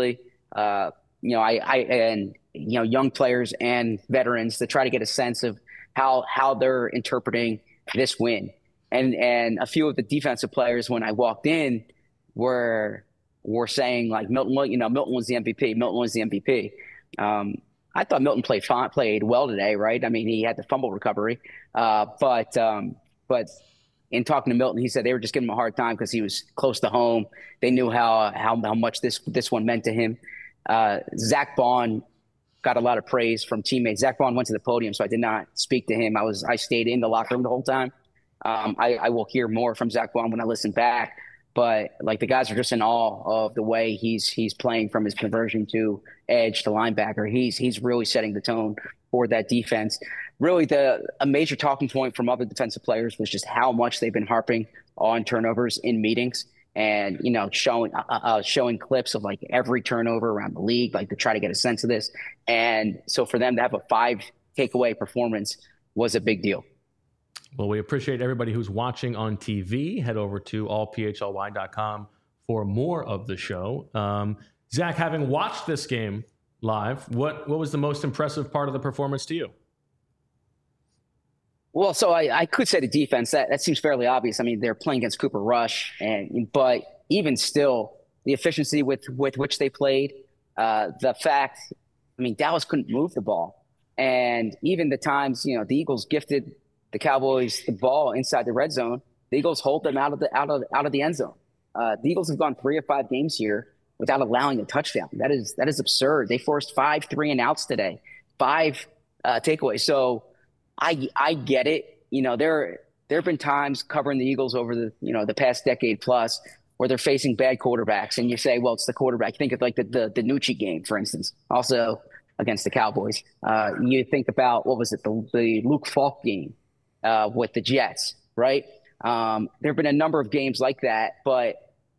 uh, you know, I, I and you know, young players and veterans to try to get a sense of how how they're interpreting this win. And and a few of the defensive players when I walked in were were saying like Milton, you know, Milton was the M V P. Milton was the M V P. Um, I thought Milton played fine, played well today, right? I mean, he had the fumble recovery, uh, but um, but in talking to Milton, he said they were just giving him a hard time because he was close to home. They knew how how how much this this one meant to him. Uh, Zach Bond got a lot of praise from teammates. Zach Bond went to the podium, so I did not speak to him. I was I stayed in the locker room the whole time. Um, I, I will hear more from Zach Bond when I listen back. But like the guys are just in awe of the way he's he's playing from his conversion to edge to linebacker. He's he's really setting the tone for that defense. Really, the a major talking point from other defensive players was just how much they've been harping on turnovers in meetings, and you know showing uh, uh, showing clips of like every turnover around the league, like to try to get a sense of this. And so for them to have a five takeaway performance was a big deal. Well, we appreciate everybody who's watching on T V. Head over to all p h l y dot com for more of the show. Um, Zach, having watched this game live, what what was the most impressive part of the performance to you? Well, so I, I could say the defense. That that seems fairly obvious. I mean, they're playing against Cooper Rush, and but even still, the efficiency with with which they played, uh, the fact, I mean, Dallas couldn't move the ball, and even the times, you know, the Eagles gifted the Cowboys the ball inside the red zone, the Eagles hold them out of the out of out of the end zone. Uh, the Eagles have gone three or five games here without allowing a touchdown. That is that is absurd. They forced five three and outs today, five uh, takeaways. So I I get it. You know, there there have been times covering the Eagles over the you know the past decade plus where they're facing bad quarterbacks, and you say, well, it's the quarterback. Think of like the the, the Nucci game, for instance. Also against the Cowboys. Uh, you think about what was it the the Luke Falk game. Uh, with the Jets, right? Um, there have been a number of games like that, but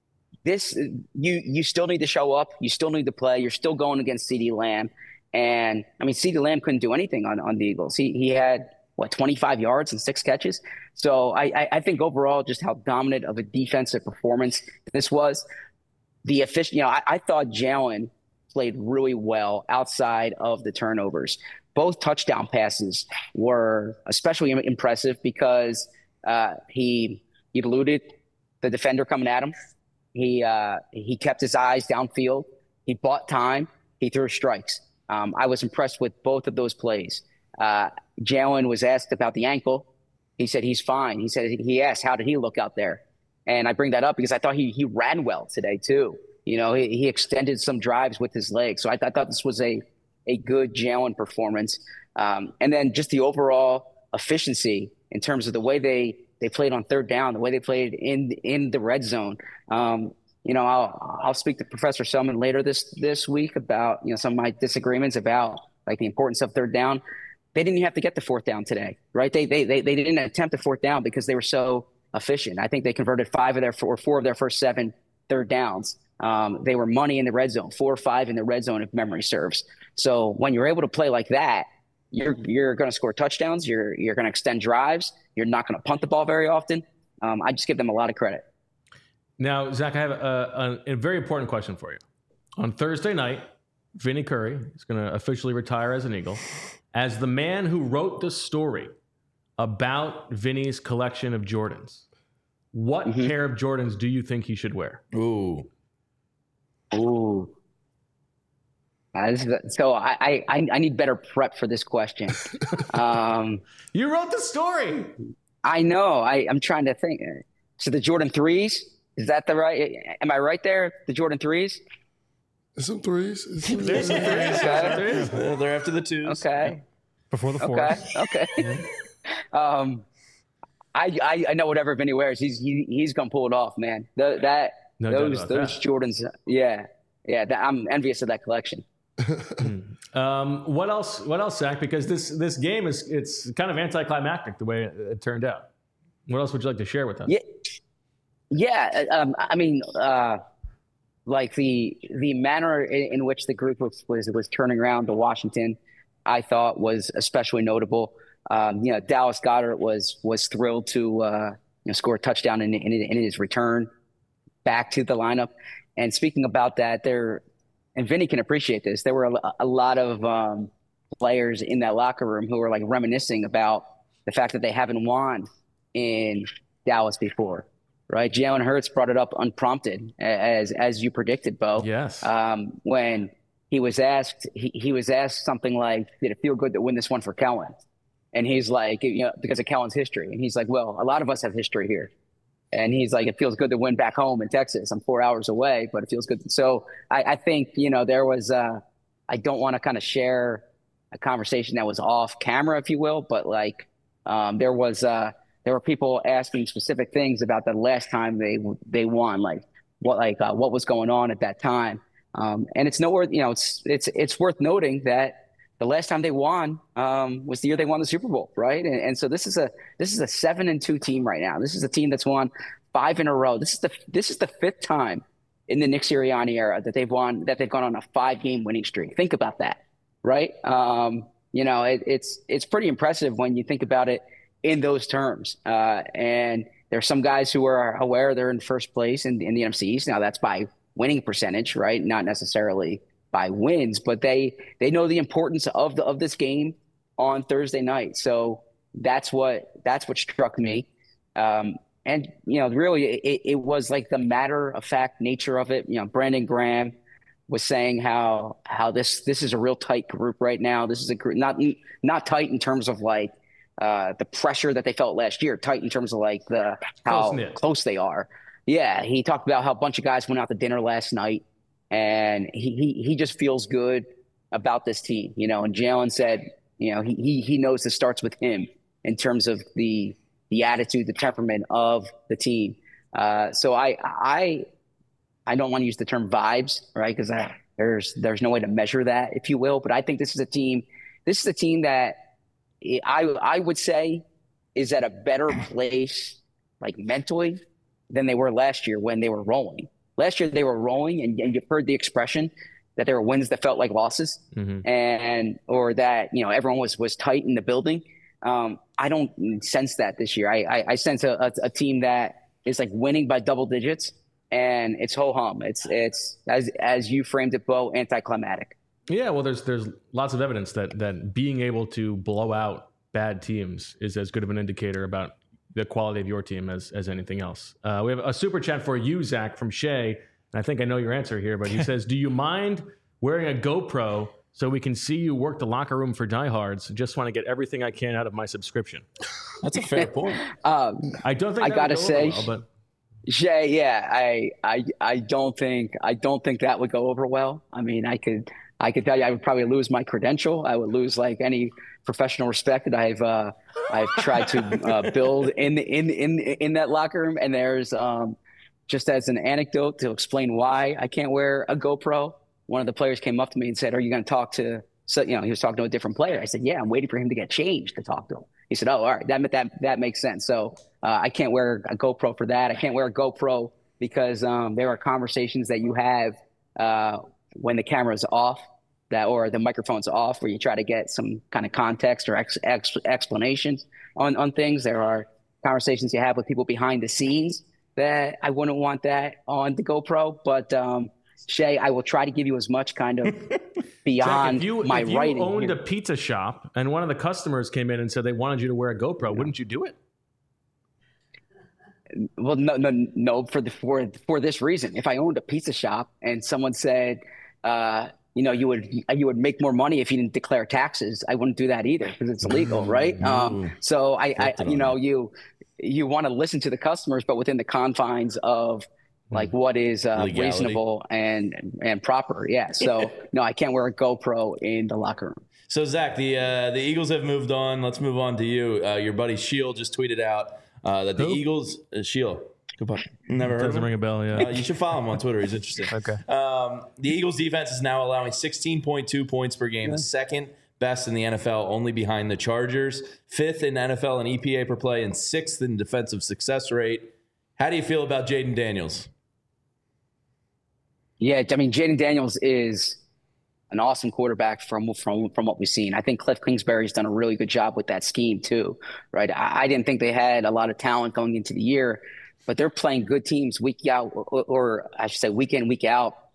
this you you still need to show up. You still need to play. You're still going against CeeDee Lamb, and I mean CeeDee Lamb couldn't do anything on, on the Eagles. He he had what twenty-five yards and six catches. So I, I I think overall just how dominant of a defensive performance this was. The efficient, you know, I, I thought Jalen played really well outside of the turnovers. Both touchdown passes were especially impressive because uh, he he eluded the defender coming at him. He uh, he kept his eyes downfield. He bought time. He threw strikes. Um, I was impressed with both of those plays. Uh, Jalen was asked about the ankle. He said he's fine. He said he asked how did he look out there, and I bring that up because I thought he he ran well today too. You know, he, he extended some drives with his legs. So I, I thought this was a a good Jalen performance. Um, and then just the overall efficiency in terms of the way they, they played on third down, the way they played in in the red zone. Um, you know, I'll I'll speak to Professor Selman later this this week about, you know, some of my disagreements about like the importance of third down. They didn't even have to get the fourth down today, right? They they they, they didn't attempt a fourth down because they were so efficient. I think they converted five of their four, four of their first seven third downs. Um, they were money in the red zone, four or five in the red zone if memory serves. So when you're able to play like that, you're you're going to score touchdowns. You're you're going to extend drives. You're not going to punt the ball very often. Um, I just give them a lot of credit. Now, Zach, I have a, a, a very important question for you. On Thursday night, Vinny Curry is going to officially retire as an Eagle. As the man who wrote the story about Vinny's collection of Jordans, what mm-hmm. pair of Jordans do you think he should wear? Ooh. Ooh. Uh, so I, I I need better prep for this question. Um, you wrote the story. I know. I, I'm trying to think. So the Jordan threes, is that the right? Am I right there? The Jordan threes? It's some threes. It's some There's some threes. Okay. Well, they're after the twos. Okay. Before the fours. Okay. Okay. um, I, I I know whatever Vinny wears, he's he, he's gonna pull it off, man. The, that no those those that. Jordans, yeah, yeah. That, I'm envious of that collection. um, what else? What else, Zach? Because this this game is it's kind of anticlimactic the way it, it turned out. What else would you like to share with us? Yeah, yeah. Um, I mean, uh, like the the manner in, in which the group was, was was turning around to Washington, I thought was especially notable. Um, you know, Dallas Goedert was was thrilled to uh, you know score a touchdown in, in in his return back to the lineup. And speaking about that, there and Vinny can appreciate this. There were a, a lot of um, players in that locker room who were like reminiscing about the fact that they haven't won in Dallas before, right? Jalen Hurts brought it up unprompted, as as you predicted, Bo. Yes. Um, when he was asked, he, he was asked something like, "Did it feel good to win this one for Kellen?" And he's like, you know, because of Kellen's history. And he's like, "Well, a lot of us have history here." And he's like, "It feels good to win back home in Texas. I'm four hours away, but it feels good." So I, I think, you know, there was, uh, I don't want to kind of share a conversation that was off camera, if you will, but like um, there was, uh, there were people asking specific things about the last time they they won, like what like uh, what was going on at that time. Um, and it's nowhere, you know, it's it's it's worth noting that the last time they won um, was the year they won the Super Bowl, right? And, and so this is a this is a seven and two team right now. This is a team that's won five in a row. This is the this is the fifth time in the Nick Sirianni era that they've won that they've gone on a five game winning streak. Think about that, right? Um, you know, it, it's it's pretty impressive when you think about it in those terms. Uh, and there's some guys who are aware they're in first place in, in the N F C East. Now that's by winning percentage, right? Not necessarily by wins, but they they know the importance of the of this game on Thursday night. So that's what that's what struck me. Um, and you know, really, it, it was like the matter of fact nature of it. You know, Brandon Graham was saying how how this this is a real tight group right now. This is a group not not tight in terms of like uh, the pressure that they felt last year. Tight in terms of like the how Close-knit. close they are. Yeah, he talked about how a bunch of guys went out to dinner last night. And he, he he just feels good about this team, you know. And Jalen said, you know, he he he knows this starts with him in terms of the the attitude, the temperament of the team. Uh, so I I I don't want to use the term vibes, right? Because there's there's no way to measure that, if you will. But I think this is a team. This is a team that I I would say is at a better place, like mentally, than they were last year when they were rolling. Last year they were rolling, and, and you've heard the expression that there were wins that felt like losses, mm-hmm. and or that you know everyone was was tight in the building. Um, I don't sense that this year. I I, I sense a, a, a team that is like winning by double digits, and it's ho hum. It's it's as as you framed it, Bo, anticlimactic. Yeah, well, there's there's lots of evidence that that being able to blow out bad teams is as good of an indicator about the quality of your team as as anything else. Uh, we have a super chat for you, Zach, from Shay. And I think I know your answer here, but he says, "Do you mind wearing a GoPro so we can see you work the locker room for diehards? Just want to get everything I can out of my subscription." That's a fair point. um, I don't think I that gotta would go say, over well, but Shay, yeah, I, I, I don't think, I don't think that would go over well. I mean, I could, I could tell you, I would probably lose my credential. I would lose like any professional respect that I've, uh, I've tried to uh, build in, in, in, in that locker room. And there's, um, just as an anecdote to explain why I can't wear a GoPro. One of the players came up to me and said, "Are you going to talk to?" So you know, he was talking to a different player. I said, "Yeah, I'm waiting for him to get changed to talk to him." He said, "Oh, all right, that that that makes sense." So uh, I can't wear a GoPro for that. I can't wear a GoPro because um, there are conversations that you have uh, when the camera's off, that or the microphone's off, where you try to get some kind of context or ex, ex, explanations on on things. There are conversations you have with people behind the scenes that I wouldn't want that on the GoPro, but um, Shay, I will try to give you as much kind of beyond Jack, if you, my if you writing. owned here. a pizza shop and one of the customers came in and said they wanted you to wear a GoPro, wouldn't you do it? Well, no, no, no. For the for for this reason, if I owned a pizza shop and someone said, uh, you know, you would you would make more money if you didn't declare taxes, I wouldn't do that either because it's illegal, right? Mm. Um, so I, I you know, you. you want to listen to the customers, but within the confines of like what is uh, reasonable and and proper. Yeah. So no, I can't wear a GoPro in the locker room. So Zach, the uh, the Eagles have moved on. Let's move on to you. Uh, your buddy Shield just tweeted out uh, that the Who? Eagles uh, Shield. Never heard of Doesn't him? ring a bell. Yeah. Uh, you should follow him on Twitter. He's interesting. Okay. Um, the Eagles defense is now allowing sixteen point two points per game, the second best in the N F L, only behind the Chargers, fifth in N F L in E P A per play, and sixth in defensive success rate. How do you feel about Jaden Daniels? Yeah, I mean, Jaden Daniels is an awesome quarterback from from from what we've seen. I think Cliff Kingsbury's done a really good job with that scheme too, right? I, I didn't think they had a lot of talent going into the year, but they're playing good teams week out, or, or I should say week in, week out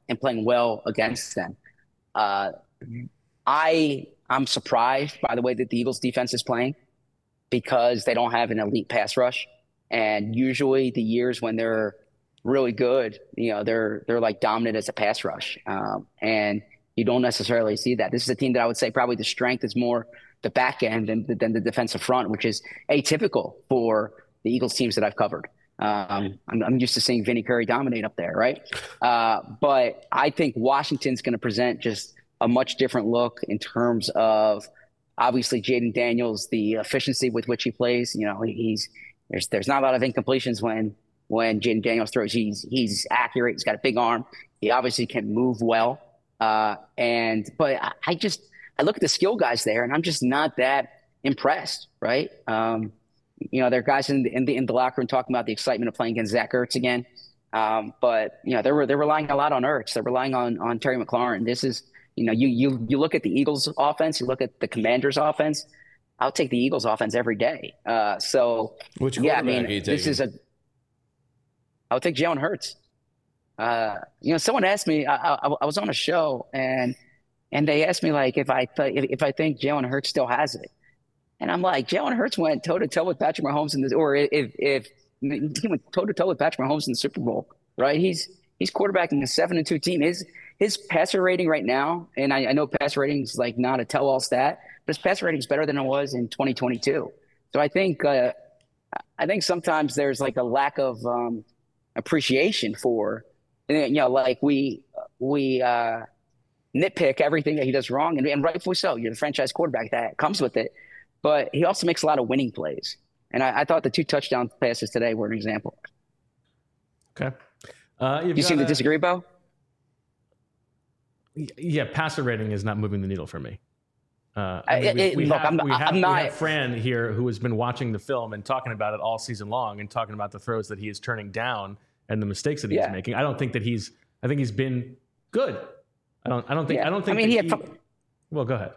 and playing well against them. Uh, I I'm surprised by the way that the Eagles defense is playing because they don't have an elite pass rush. And usually the years when they're really good, you know, they're they're like dominant as a pass rush. Um, and you don't necessarily see that. This is a team that I would say probably the strength is more the back end than, than the defensive front, which is atypical for the Eagles teams that I've covered. Um, I'm, I'm used to seeing Vinny Curry dominate up there, right? Uh, but I think Washington's going to present just a much different look in terms of obviously Jaden Daniels, the efficiency with which he plays. You know, he's there's there's not a lot of incompletions when when Jaden Daniels throws. He's he's accurate. He's got a big arm. He obviously can move well. Uh, and but I, I just I look at the skill guys there, and I'm just not that impressed, right? Um, you know, there are guys in the, in the in the locker room talking about the excitement of playing against Zach Ertz again. Um, but you know, they're they're relying a lot on Ertz. They're relying on on Terry McLaurin. This is you know, you you you look at the Eagles offense, you look at the Commanders offense. I'll take the Eagles offense every day. Uh, so which yeah, I quarterback mean, are you this taking? is a. I'll take Jalen Hurts. Uh, you know, someone asked me. I, I, I was on a show and and they asked me like if I th- if, if I think Jalen Hurts still has it, and I'm like, Jalen Hurts went toe to toe with Patrick Mahomes in the or if if he went toe to toe with Patrick Mahomes in the Super Bowl, right? He's he's quarterbacking a seven and two team. His his passer rating right now, and I, I know passer rating is like not a tell all stat, but his passer rating is better than it was in twenty twenty-two. So I think uh, I think sometimes there's like a lack of um, appreciation for, you know, like we we uh, nitpick everything that he does wrong, and, and rightfully so. You're the franchise quarterback, that comes with it. But he also makes a lot of winning plays, and I, I thought the two touchdown passes today were an example. Okay, uh, you seem to a, disagree, Bo? Yeah, passer rating is not moving the needle for me. Uh, I mean, we, it, we, look, have, I'm, we, have, I'm not, we have Fran here who has been watching the film and talking about it all season long and talking about the throws that he is turning down and the mistakes that he's yeah. making. I don't think that he's. I think he's been good. I don't. I don't think. Yeah. I don't think. I mean, he had. He, F- well, go ahead.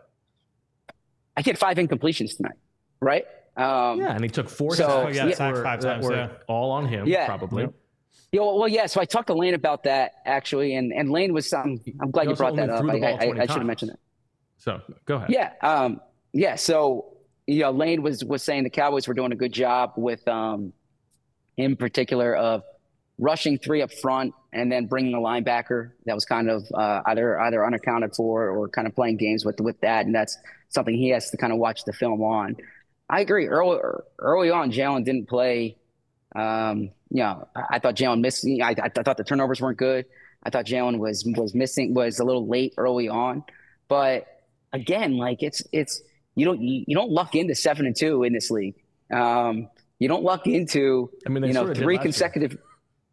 I had five incompletions tonight, right? Um, yeah, and he took four. So, sacks yeah, that sacked were, five that times, were yeah. all on him. Yeah. Probably. Yep. Yeah, well, well, yeah. So I talked to Lane about that actually, and, and Lane was. Um, I'm glad He you brought also that up. only I, threw the ball I, twenty I should have times. mentioned that. So go ahead. Yeah, um, yeah. So you know, Lane was was saying the Cowboys were doing a good job with um, in particular of rushing three up front and then bringing a linebacker that was kind of uh, either either unaccounted for or kind of playing games with with that, and that's something he has to kind of watch the film on. I agree. Early early on, Jalen didn't play. Um, you know, I, I thought Jalen missed. I, I thought the turnovers weren't good. I thought Jalen was was missing was a little late early on, but again, like it's it's you don't you, you don't luck into seven and two in this league. Um, you don't luck into I mean, they you know sort of did three last consecutive. year.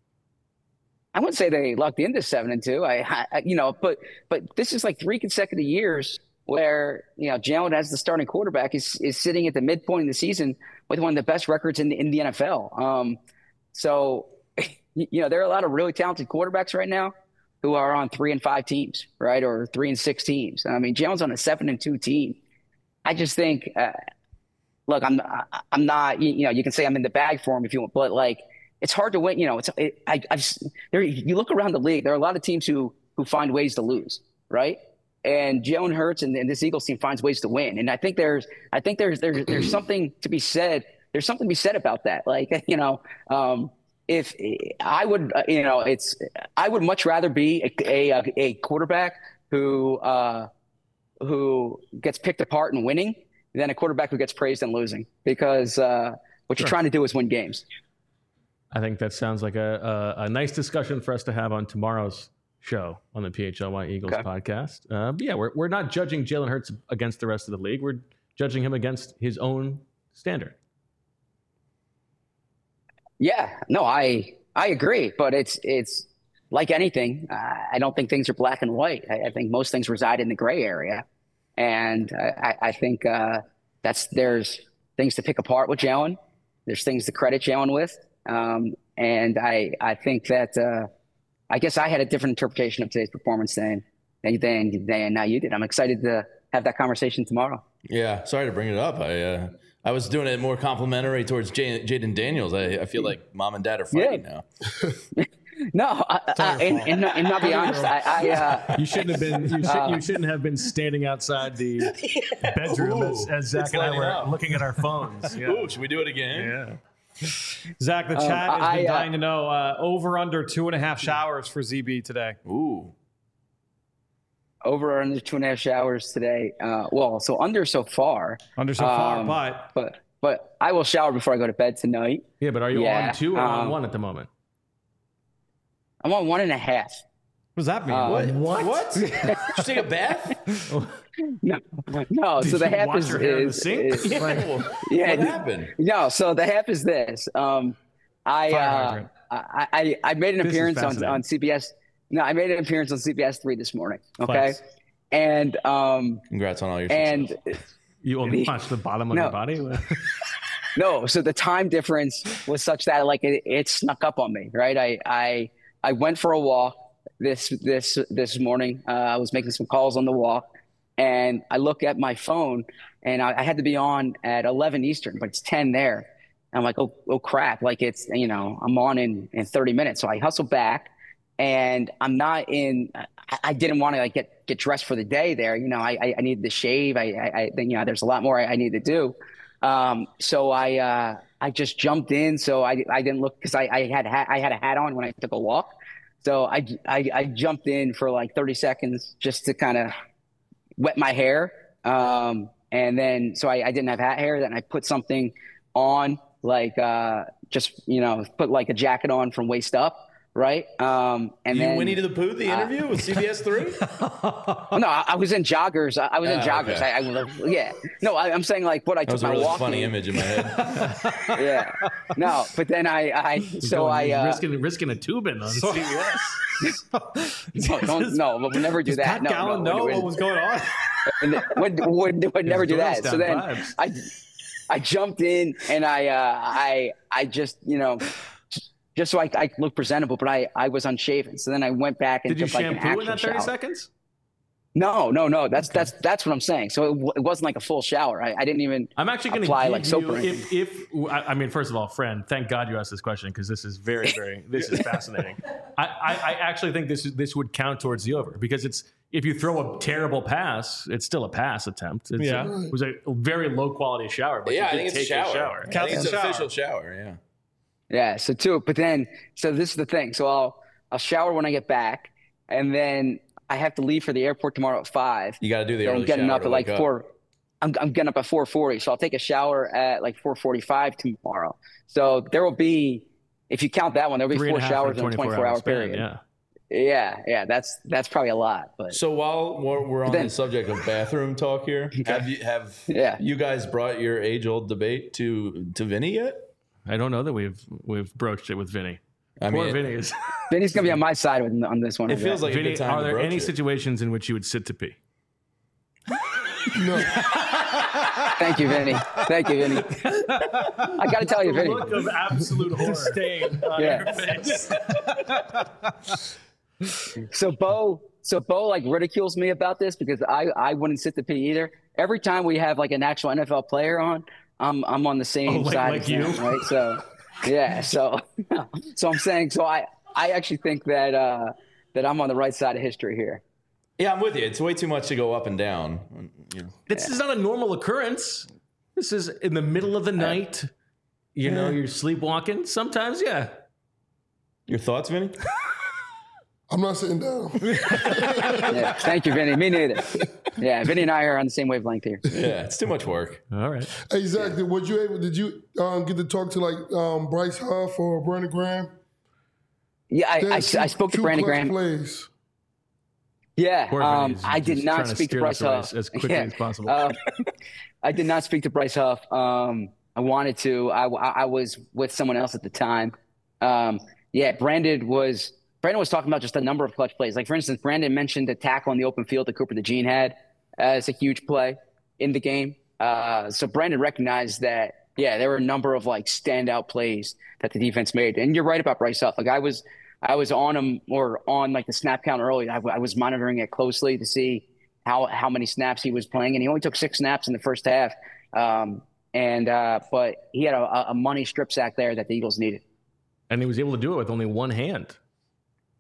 I wouldn't say they lucked into seven and two. I, I you know, but but this is like three consecutive years where you know Jalen as the starting quarterback is is sitting at the midpoint of the season with one of the best records in the in the N F L. Um, so you know there are a lot of really talented quarterbacks right now who are on three and five teams, right, or three and six teams. I mean, Jalen's on a seven and two team. I just think, uh, look, I'm I'm not you, you know you can say I'm in the bag for him if you want, but like it's hard to win. You know, it's it, I I've there you look around the league, there are a lot of teams who who find ways to lose, right? And Jalen Hurts and, and this Eagles team finds ways to win. And I think there's, I think there's, there's, there's something to be said. There's something to be said about that. Like, you know, um, if I would, uh, you know, it's, I would much rather be a, a, a quarterback who, uh, who gets picked apart and winning than a quarterback who gets praised and losing, because uh, what Sure. you're trying to do is win games. I think that sounds like a, a, a nice discussion for us to have on tomorrow's show on the P H L Y Eagles Okay. podcast. Uh, but yeah, we're we're not judging Jalen Hurts against the rest of the league. We're judging him against his own standard. Yeah, no, I I agree, but it's it's like anything. Uh, I don't think things are black and white. I, I think most things reside in the gray area, and I, I think uh, that's there's things to pick apart with Jalen. There's things to credit Jalen with, um, and I I think that. Uh, I guess I had a different interpretation of today's performance than than than, than now you did. I'm excited to have that conversation tomorrow. Yeah, sorry to bring it up. I uh, I was doing it more complimentary towards J- Jaden Daniels. I, I feel like mom and dad are fighting Yeah. now. No, uh, uh, and, and, and not be honest, I, I uh, You shouldn't have been. You, should, you shouldn't have been standing outside the bedroom as, as Zach It's and I lighting were up. looking at our phones. Yeah. Ooh, should we do it again? Yeah. Zach, the chat has I, been uh, dying to know uh, over under two and a half showers for Z B today. Ooh. over or under two and a half showers today. Uh, well, so under so far. Under so far, Um, but But but I will shower before I go to bed tonight. Yeah, but are you Yeah, on two or on um, one at the moment? I'm on one and a half. what does that mean? Uh, What? What? What? Did you take a bath? No, no. Did so the you half wash is, your hair in the is, sink? is- Yeah. yeah. What happened? No, so the half is this. Um, I, Fire uh, hydrant. I I I made an This is appearance on, fascinating. on C B S. No, I made an appearance on C B S three this morning. Okay, Flex. and um Congrats on all your success. and You only watch the bottom of No. your body? no, so the time difference was such that like it, it snuck up on me. Right, I I I went for a walk this this this morning. Uh, I was making some calls on the walk, and I look at my phone, and I, I had to be on at eleven Eastern, but it's ten there. And I'm like, oh, oh crap! Like it's you know I'm on in in thirty minutes, so I hustle back, and I'm not in. I, I didn't want to like get get dressed for the day there. You know, I I, I needed to shave. I I, I you know there's a lot more I, I need to do. Um, so I uh I just jumped in. So I I didn't look because I I had ha- I had a hat on when I took a walk. So I, I, I jumped in for like thirty seconds just to kind of wet my hair. Um, and then, so I, I didn't have hat hair. Then I put something on, like uh, just, you know, put like a jacket on from waist up. Right. Um, and you then Winnie the Pooh, the interview with C B S three? oh, no, I, I was in joggers. I, I was in Oh, joggers. okay. I, I yeah. No, I, I'm saying like what I That took was a my really walk funny in. image in my head. Yeah. No, but then I, I so I, uh, risking risking a tubin on C B S. no, don't, no, but we'll never do Does that. Pat No, Gallen no, know would- what was going on? would, would, would never do that. Doylestown So then vibes. I, I jumped in and I, uh, I, I just, you know, just so I, I look presentable, but I, I was unshaven. So then I went back and Did you took like an shampoo in actual that thirty shower. seconds? No, no, no. That's that's that's what I'm saying. So it, w- it wasn't like a full shower. I, I didn't even. I'm actually going to apply give like soap you, or anything. if, if I I mean, first of all, friend, thank God you asked this question because this is very, very, this is fascinating. I, I, I actually think this is, this would count towards the over because it's if you throw a terrible pass, it's still a pass attempt. It's Yeah. a, it was a very low quality shower, but Yeah, I you think did it's a take shower. a shower. I Counts think it's as a an shower. official shower, yeah. Yeah. So too, but then so this is the thing. So I'll I'll shower when I get back, and then I have to leave for the airport tomorrow at five. You got to do the So early I'm getting shower up to at like wake up. four. I'm, I'm getting up at four forty, so I'll take a shower at like four forty-five tomorrow. So there will be, if you count that one, there'll be Three four and a half showers in a twenty-four twenty-four hour span, period. Yeah. Yeah, yeah, that's that's probably a lot, but So while we're, we're on then- the subject of bathroom talk here, have you have Yeah. you guys brought your age old debate to to Vinny yet? I don't know that we've we've broached it with Vinny. I Poor mean, Vinny is. Vinny's gonna be on my side with, on this one. it feels like a Vinny, good time are to there broach any it. situations in which you would sit to pee? No, Thank you, Vinny. Thank you, Vinny. I got to tell you, Vinny. Look of absolute horror. Disdain. on Yeah. your face. So Bo, so Bo like ridicules me about this because I I wouldn't sit to pee either. Every time we have like an actual N F L player on, I'm I'm on the same Oh, like- side like as him, you? right? So yeah, so so I'm saying so I I actually think that uh that I'm on the right side of history here. Yeah, I'm with you. It's way too much to go up and down. You know. This is not a normal occurrence. This is in the middle of the night. You know, you're sleepwalking. Sometimes, yeah. Your thoughts, Vinny? I'm not sitting down. Yeah, thank you, Vinny. Me neither. Yeah, Vinny and I are on the same wavelength here. Yeah, it's too much work. All right. Hey Zach, did, was you able? Did you um, get to talk to like um, Bryce Huff or Brandon Graham? Yeah, I, They I, had two- I spoke to two Brandon clutch Graham. Plays. Yeah, Poor um, Vinny's I did just not trying to speak to steer Bryce this away Huff as quickly Yeah. as possible. Uh, I did not speak to Bryce Huff. Um, I wanted to. I, I, I was with someone else at the time. Um, yeah, Brandon was Brandon was talking about just a number of clutch plays. Like for instance, Brandon mentioned the tackle on the open field that Cooper DeJean had as a huge play in the game. Uh, so Brandon recognized that. Yeah, there were a number of like standout plays that the defense made. And you're right about Bryce Huff. Like I was. I was on him or on like the snap count early. I, I was monitoring it closely to see how how many snaps he was playing, and he only took six snaps in the first half. Um, and uh, but he had a, a money strip sack there that the Eagles needed. And he was able to do it with only one hand.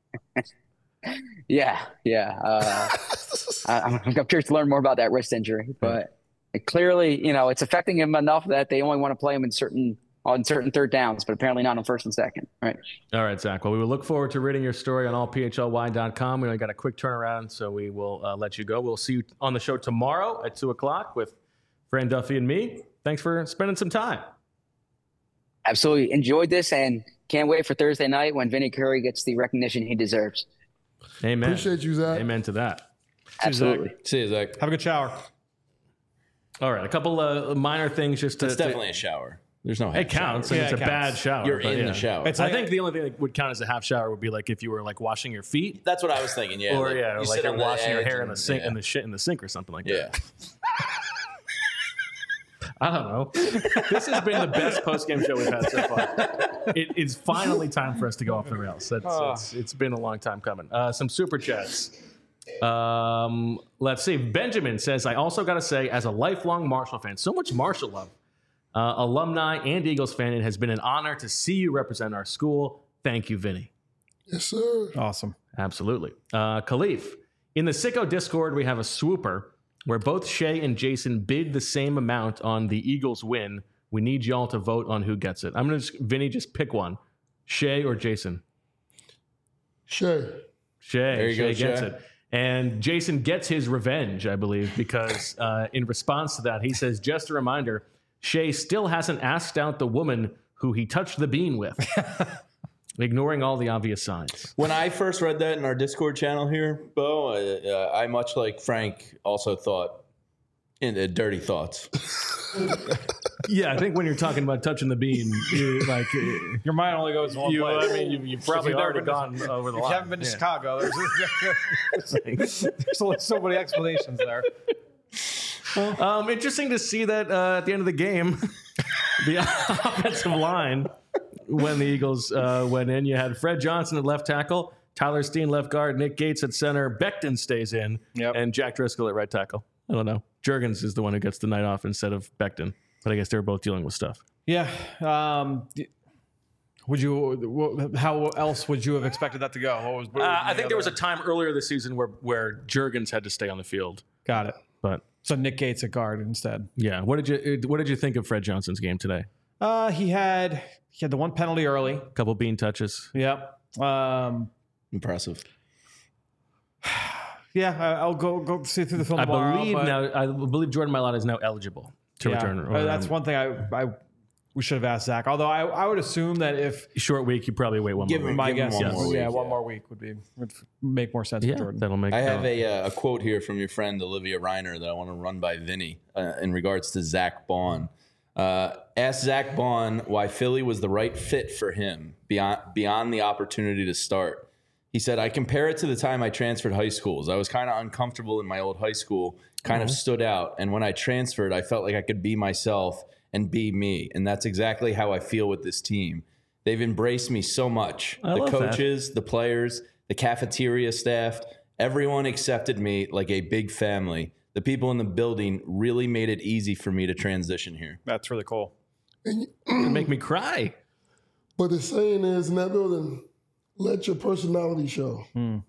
Yeah, yeah. Uh, I, I'm, I'm curious to learn more about that wrist injury, but it clearly, you know, it's affecting him enough that they only want to play him in certain on certain third downs, but apparently not on first and second. Right. All right, Zach. Well, we will look forward to reading your story on all p h l y dot com. We only got a quick turnaround, so we will uh, let you go. We'll see you on the show tomorrow at two o'clock with Fran Duffy and me. Thanks for spending some time. Absolutely enjoyed this and can't wait for Thursday night when Vinny Curry gets the recognition he deserves. Amen. Appreciate you, Zach. Amen to that. Absolutely. See you, Zach. Have a good shower. All right, a couple of minor things just to. It's to- definitely a shower. There's no half It counts. shower. And Yeah, it's a it bad counts. shower. You're but in yeah. the shower. It's I like- think the only thing that would count as a half shower would be like if you were like washing your feet, That's what I was thinking. Yeah. or like, yeah, or you like sit you're on the washing your edge hair in the and- sink yeah. in the shit in the sink or something like Yeah. that. I don't know. This has been the best post game show we've had so far. It is finally time for us to go off the rails. That's, it's, it's been a long time coming. Uh, some super chats. Um, let's see. Benjamin says, I also got to say, as a lifelong Marshall fan, so much Marshall love. Uh, alumni and Eagles fan, it has been an honor to see you represent our school. Thank you, Vinny. Yes, sir. Awesome. Absolutely. Uh, Khalif, in the Sicko Discord, we have a swooper where both Shay and Jason bid the same amount on the Eagles win. We need y'all to vote on who gets it. I'm going to, Vinny, just pick one. Shay or Jason? Shay. Shay. There you Shay go, gets Shay. it. And Jason gets his revenge, I believe, because uh, in response to that, he says, just a reminder, Shay still hasn't asked out the woman who he touched the bean with, ignoring all the obvious signs. When I first read that in our Discord channel here, Bo, I, uh, I much like Frank also thought in uh, dirty thoughts. Yeah, I think when you're talking about touching the bean, you like uh, Your mind only goes one you. place. I mean, you, you've probably you've never already been to- gone over the If line. you haven't been to Yeah. Chicago, there's, there's only so many explanations there. Um, interesting to see that uh, at the end of the game, the offensive line, when the Eagles uh, went in, you had Fred Johnson at left tackle, Tyler Steen left guard, Nick Gates at center, Becton stays in, Yep. and Jack Driscoll at right tackle. I don't know. Juergens is the one who gets the night off instead of Becton, but I guess they were both dealing with stuff. Yeah. Um, would you? How else would you have expected that to go? What was? What Uh, was I the think there was a other- time earlier this season where where Juergens had to stay on the field, Got it. but So Nick Gates at guard instead. yeah. What did you What did you think of Fred Johnson's game today? Uh, he had he had the one penalty early. A couple bean touches. Yep. Um, Impressive. yeah, I, I'll go go see through the film I tomorrow. believe but- now. I believe Jordan Mailata is now eligible to yeah, return. uh, that's one thing I, I we should have asked Zach. Although I, I would assume that if Short week, you probably wait one Give more him- week. my give him guess, one is, more yeah, week, one yeah. more week would be would make more sense Yeah, for Jordan. that'll make. I have uh, a, uh, a quote here from your friend Olivia Reiner that I want to run by Vinny uh, in regards to Zach Bond. Uh, ask Zach Bond why Philly was the right fit for him beyond beyond the opportunity to start. He said, I compare it to the time I transferred high schools. I was kind of uncomfortable in my old high school, kind of stood out. And when I transferred, I felt like I could be myself and be me. And that's exactly how I feel with this team. They've embraced me so much. I the love that. coaches, the players, the cafeteria staff, everyone accepted me like a big family. The people in the building really made it easy for me to transition here. That's really cool. And It'd make me cry. But the saying is in that building, let your personality show.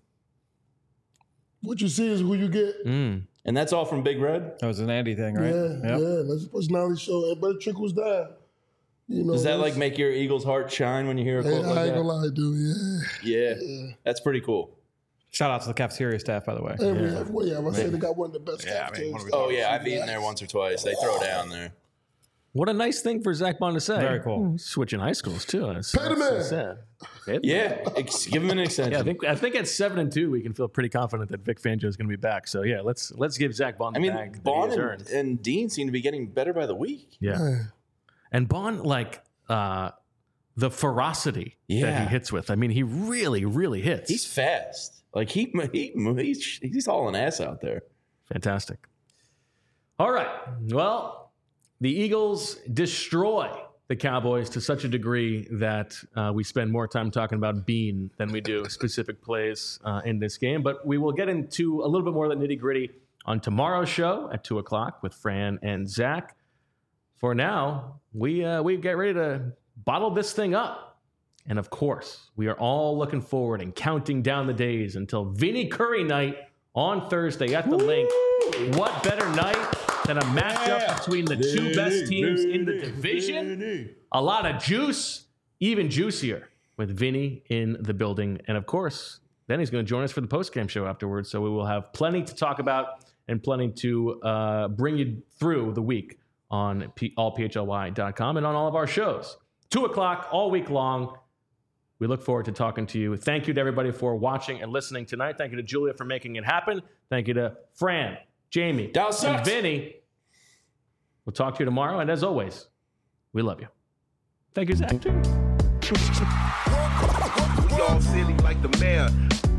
What you see is who you get. Mm. And that's all from Big Red? That was an Andy thing, right? Yeah, Yep. yeah. Let your personality show. But it trickles down. You know, Does that that's- like make your Eagles heart shine when you hear a Hey, quote I like ain't that? gonna lie, dude. Yeah. Yeah, that's pretty cool. Shout out to the cafeteria staff, by the way. And we have, well, yeah, I say they got one of the best Yeah, I mean, cafeterias. what are we Oh yeah, I've eaten there once or twice. They throw down there. What a nice thing for Zach Bond to say. Very cool. Mm, Switching high schools too. That's, Pay the that's- man. that's sad. Pay the man. Yeah, ex- give him an extension. Yeah, I think I think at seven and two we can feel pretty confident that Vic Fangio is going to be back. So yeah, let's let's give Zach Bond I the mean, bag that Bond he has and, earned. and Dean seem to be getting better by the week. Yeah, and Bond like uh, the ferocity that Yeah. he hits with. I mean, he really really hits. He's fast. Like he, he he's he's hauling ass out there. Fantastic. All right. Well, the Eagles destroy the Cowboys to such a degree that uh, we spend more time talking about Bean than we do specific plays uh, in this game. But we will get into a little bit more of the nitty gritty on tomorrow's show at two o'clock with Fran and Zach. For now, we uh, we get ready to bottle this thing up And of course, we are all looking forward and counting down the days until Vinny Curry night on Thursday at the Link. What better night than a matchup yeah. between the two Vinny, best teams Vinny, in the division? Vinny. A lot of juice, even juicier with Vinny in the building. And of course, then he's going to join us for the postgame show afterwards. So we will have plenty to talk about and plenty to uh, bring you through the week on P- all P H L Y dot com and on all of our shows. Two o'clock all week long. We look forward to talking to you. Thank you to everybody for watching and listening tonight. Thank you to Julia for making it happen. Thank you to Fran, Jamie, Dallas and sucks. Vinny. We'll talk to you tomorrow. And as always, we love you. Thank you, Zach, too. We all silly like the mayor.